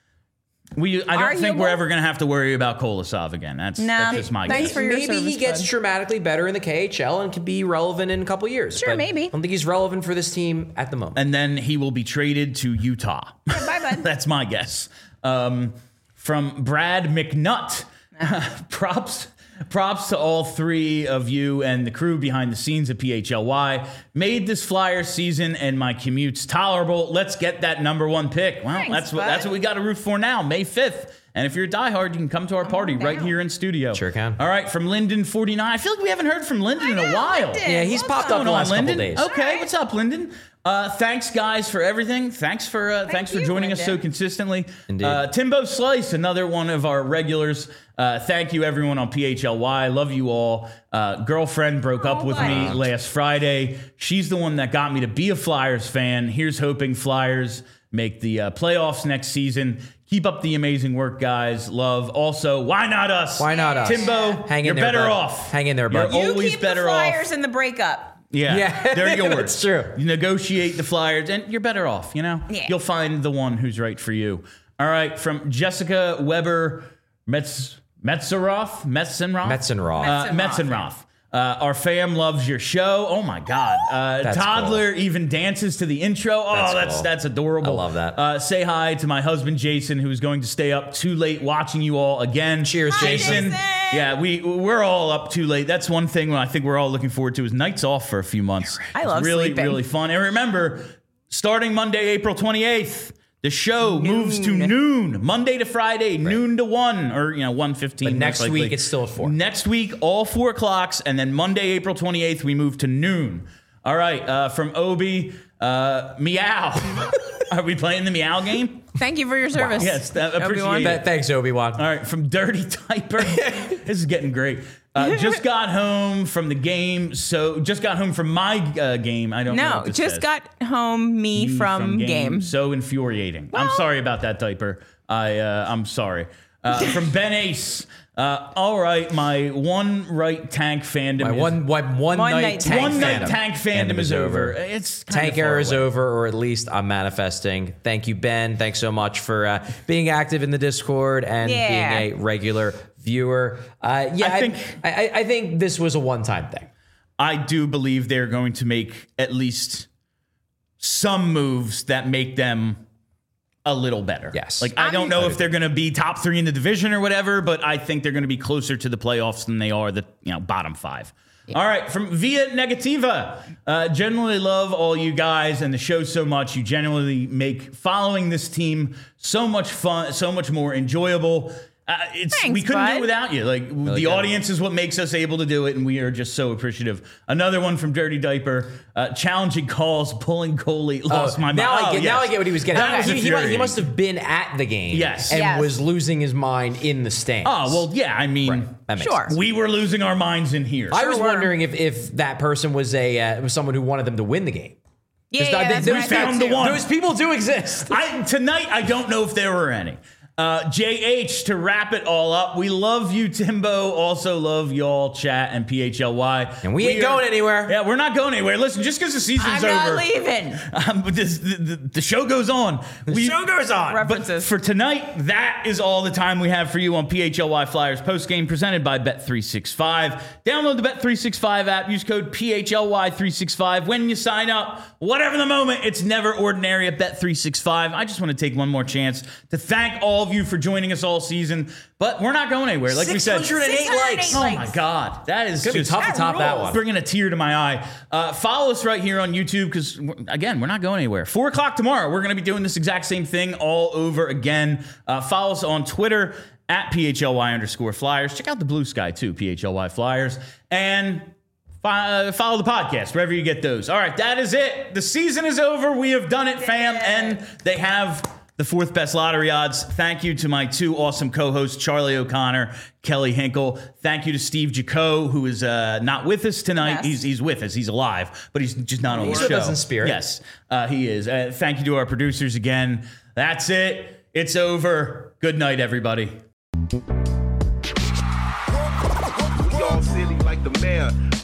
We, I don't think Arguable. we're ever going to have to worry about Kolosov again. That's, Nah, that's just my thanks guess. for your Maybe he service, gets bud. dramatically better in the K H L and can be relevant in a couple years. Sure, but maybe. I don't think he's relevant for this team at the moment. And then he will be traded to Utah. Bye, bud. That's my guess. Um, from Brad McNutt. props props to all three of you and the crew behind the scenes at P H L Y. Made this Flyers season and my commutes tolerable. Let's get that number one pick. Well, Thanks, that's what bud. that's what we got to root for now, May fifth. And if you're a diehard, you can come to our party on right down. here in studio. Sure can. All right, from Lyndon forty-nine. I feel like we haven't heard from Lyndon in a while. Yeah, he's popped up Going the on, last couple Lyndon? days. Okay, what's up, Lyndon? Uh, thanks, guys, for everything. Thanks for uh, thanks for you, joining us so Lyndon. consistently. Indeed. Uh, Timbo Slice, another one of our regulars. Uh, thank you, everyone on P H L Y. Love you all. Uh, girlfriend broke up Oh, with buddy. me last Friday. She's the one that got me to be a Flyers fan. Here's hoping Flyers make the uh, playoffs next season. Keep up the amazing work, guys. Love. Also, why not us? Why not us? Timbo, Hang in you're there, better bud. off. Hang in there, bud. You're You always keep better the off. Flyers in the breakup. Yeah, Yeah. they're yours. That's true. You negotiate the Flyers, and you're better off, you know? Yeah. You'll find the one who's right for you. All right, from Jessica Weber Metz, Metzeroth? Metzenroth? Metzenroth. Uh, Metzenroth. Metzenroth. Uh, our fam loves your show. Oh my God. Uh, That's toddler even dances to the intro. Oh, That's that's cool. that's adorable. I love that. Uh, say hi to my husband, Jason, who is going to stay up too late watching you all again. Cheers, Hi, Jason. Jason. Yeah, we, we're all up too late. That's one thing I think we're all looking forward to is nights off for a few months. I It's love really, sleeping. really fun. And remember, starting Monday, April twenty-eighth. The show noon. moves to noon, Monday to Friday, right. noon to one, or you know one fifteen. But next week it's still at four. Next week, all four o'clocks, and then Monday, April twenty-eighth, we move to noon. All right, uh, from Obi, uh, Meow. Are we playing the Meow game? Thank you for your service. Wow. Yes, that, appreciate it. Th- thanks, Obi-Wan. All right, from Dirty Typer. This is getting great. Uh, just got home from the game, so just got home from my uh, game. I don't no, know. No, just says. got home me, me from, from game. game. So infuriating. Well, I'm sorry about that, Typer. I uh, I'm sorry. Uh, from Ben Ace. Uh, all right, my one right tank fandom. My is, one, one, one, one night, night tank one fandom. night tank fandom, fandom is over. It's tank era is over, or at least I'm manifesting. Thank you, Ben. Thanks so much for uh, being active in the Discord and yeah. being a regular viewer. Uh, yeah, I think I, I, I think this was a one-time thing. I do believe they're going to make at least some moves that make them a little better. Yes. Like, I don't know if they're going to be top three in the division or whatever, but I think they're going to be closer to the playoffs than they are the, you know, bottom five. Yeah. All right. From Via Negativa. Uh, generally love all you guys and the show so much. You genuinely make following this team so much fun, so much more enjoyable. Uh, it's Thanks, we couldn't bud. do it without you. Like really the good. Audience is what makes us able to do it, and we are just so appreciative. Another one from Dirty Diaper: uh, challenging calls, pulling goalie, lost oh, my mind. Now oh, I get. Yes. Now I get what he was getting. That he, was he, he, he must have been at the game, yes, and yes. was losing his mind in the stands. Oh well, yeah. I mean, right. that makes sure. sense. We were losing our minds in here. I sure was were. wondering if if that person was a uh, was someone who wanted them to win the game. Yeah, yeah, that's those, found the one. Those people do exist. I, tonight, I don't know if there were any. Uh, J H, to wrap it all up, we love you, Timbo. Also love y'all, chat, and P H L Y. And we, we ain't are, going anywhere. Yeah, we're not going anywhere. Listen, just because the season's I'm over. I'm not leaving. Um, but this, the, the, the show goes on. The we, show goes on. References. But for tonight, that is all the time we have for you on P H L Y Flyers postgame presented by Bet three sixty-five. Download the Bet three sixty-five app. Use code P H L Y three sixty-five when you sign up. Whatever the moment, it's never ordinary at Bet three sixty-five. I just want to take one more chance to thank all of you for joining us all season, but we're not going anywhere. Like we said, six hundred eight likes. Oh my God, that is it's gonna just be tough to top that one. Bringing a tear to my eye. Uh, follow us right here on YouTube because again, we're not going anywhere. Four o'clock tomorrow, we're going to be doing this exact same thing all over again. Uh, follow us on Twitter at P H L Y underscore Flyers. Check out the Blue Sky too, P H L Y Flyers, and uh, follow the podcast wherever you get those. All right, that is it. The season is over. We have done it, fam, and they have the fourth best lottery odds. Thank you to my two awesome co-hosts, Charlie O'Connor, Kelly Hinkle. Thank you to Steve Jaco, who is uh, not with us tonight. Yes. He's he's with us. He's alive, but he's just not on he's the with show. us in spirit. Yes, uh, he is. Uh, thank you to our producers again. That's it. It's over. Good night, everybody. We all silly like the mayor.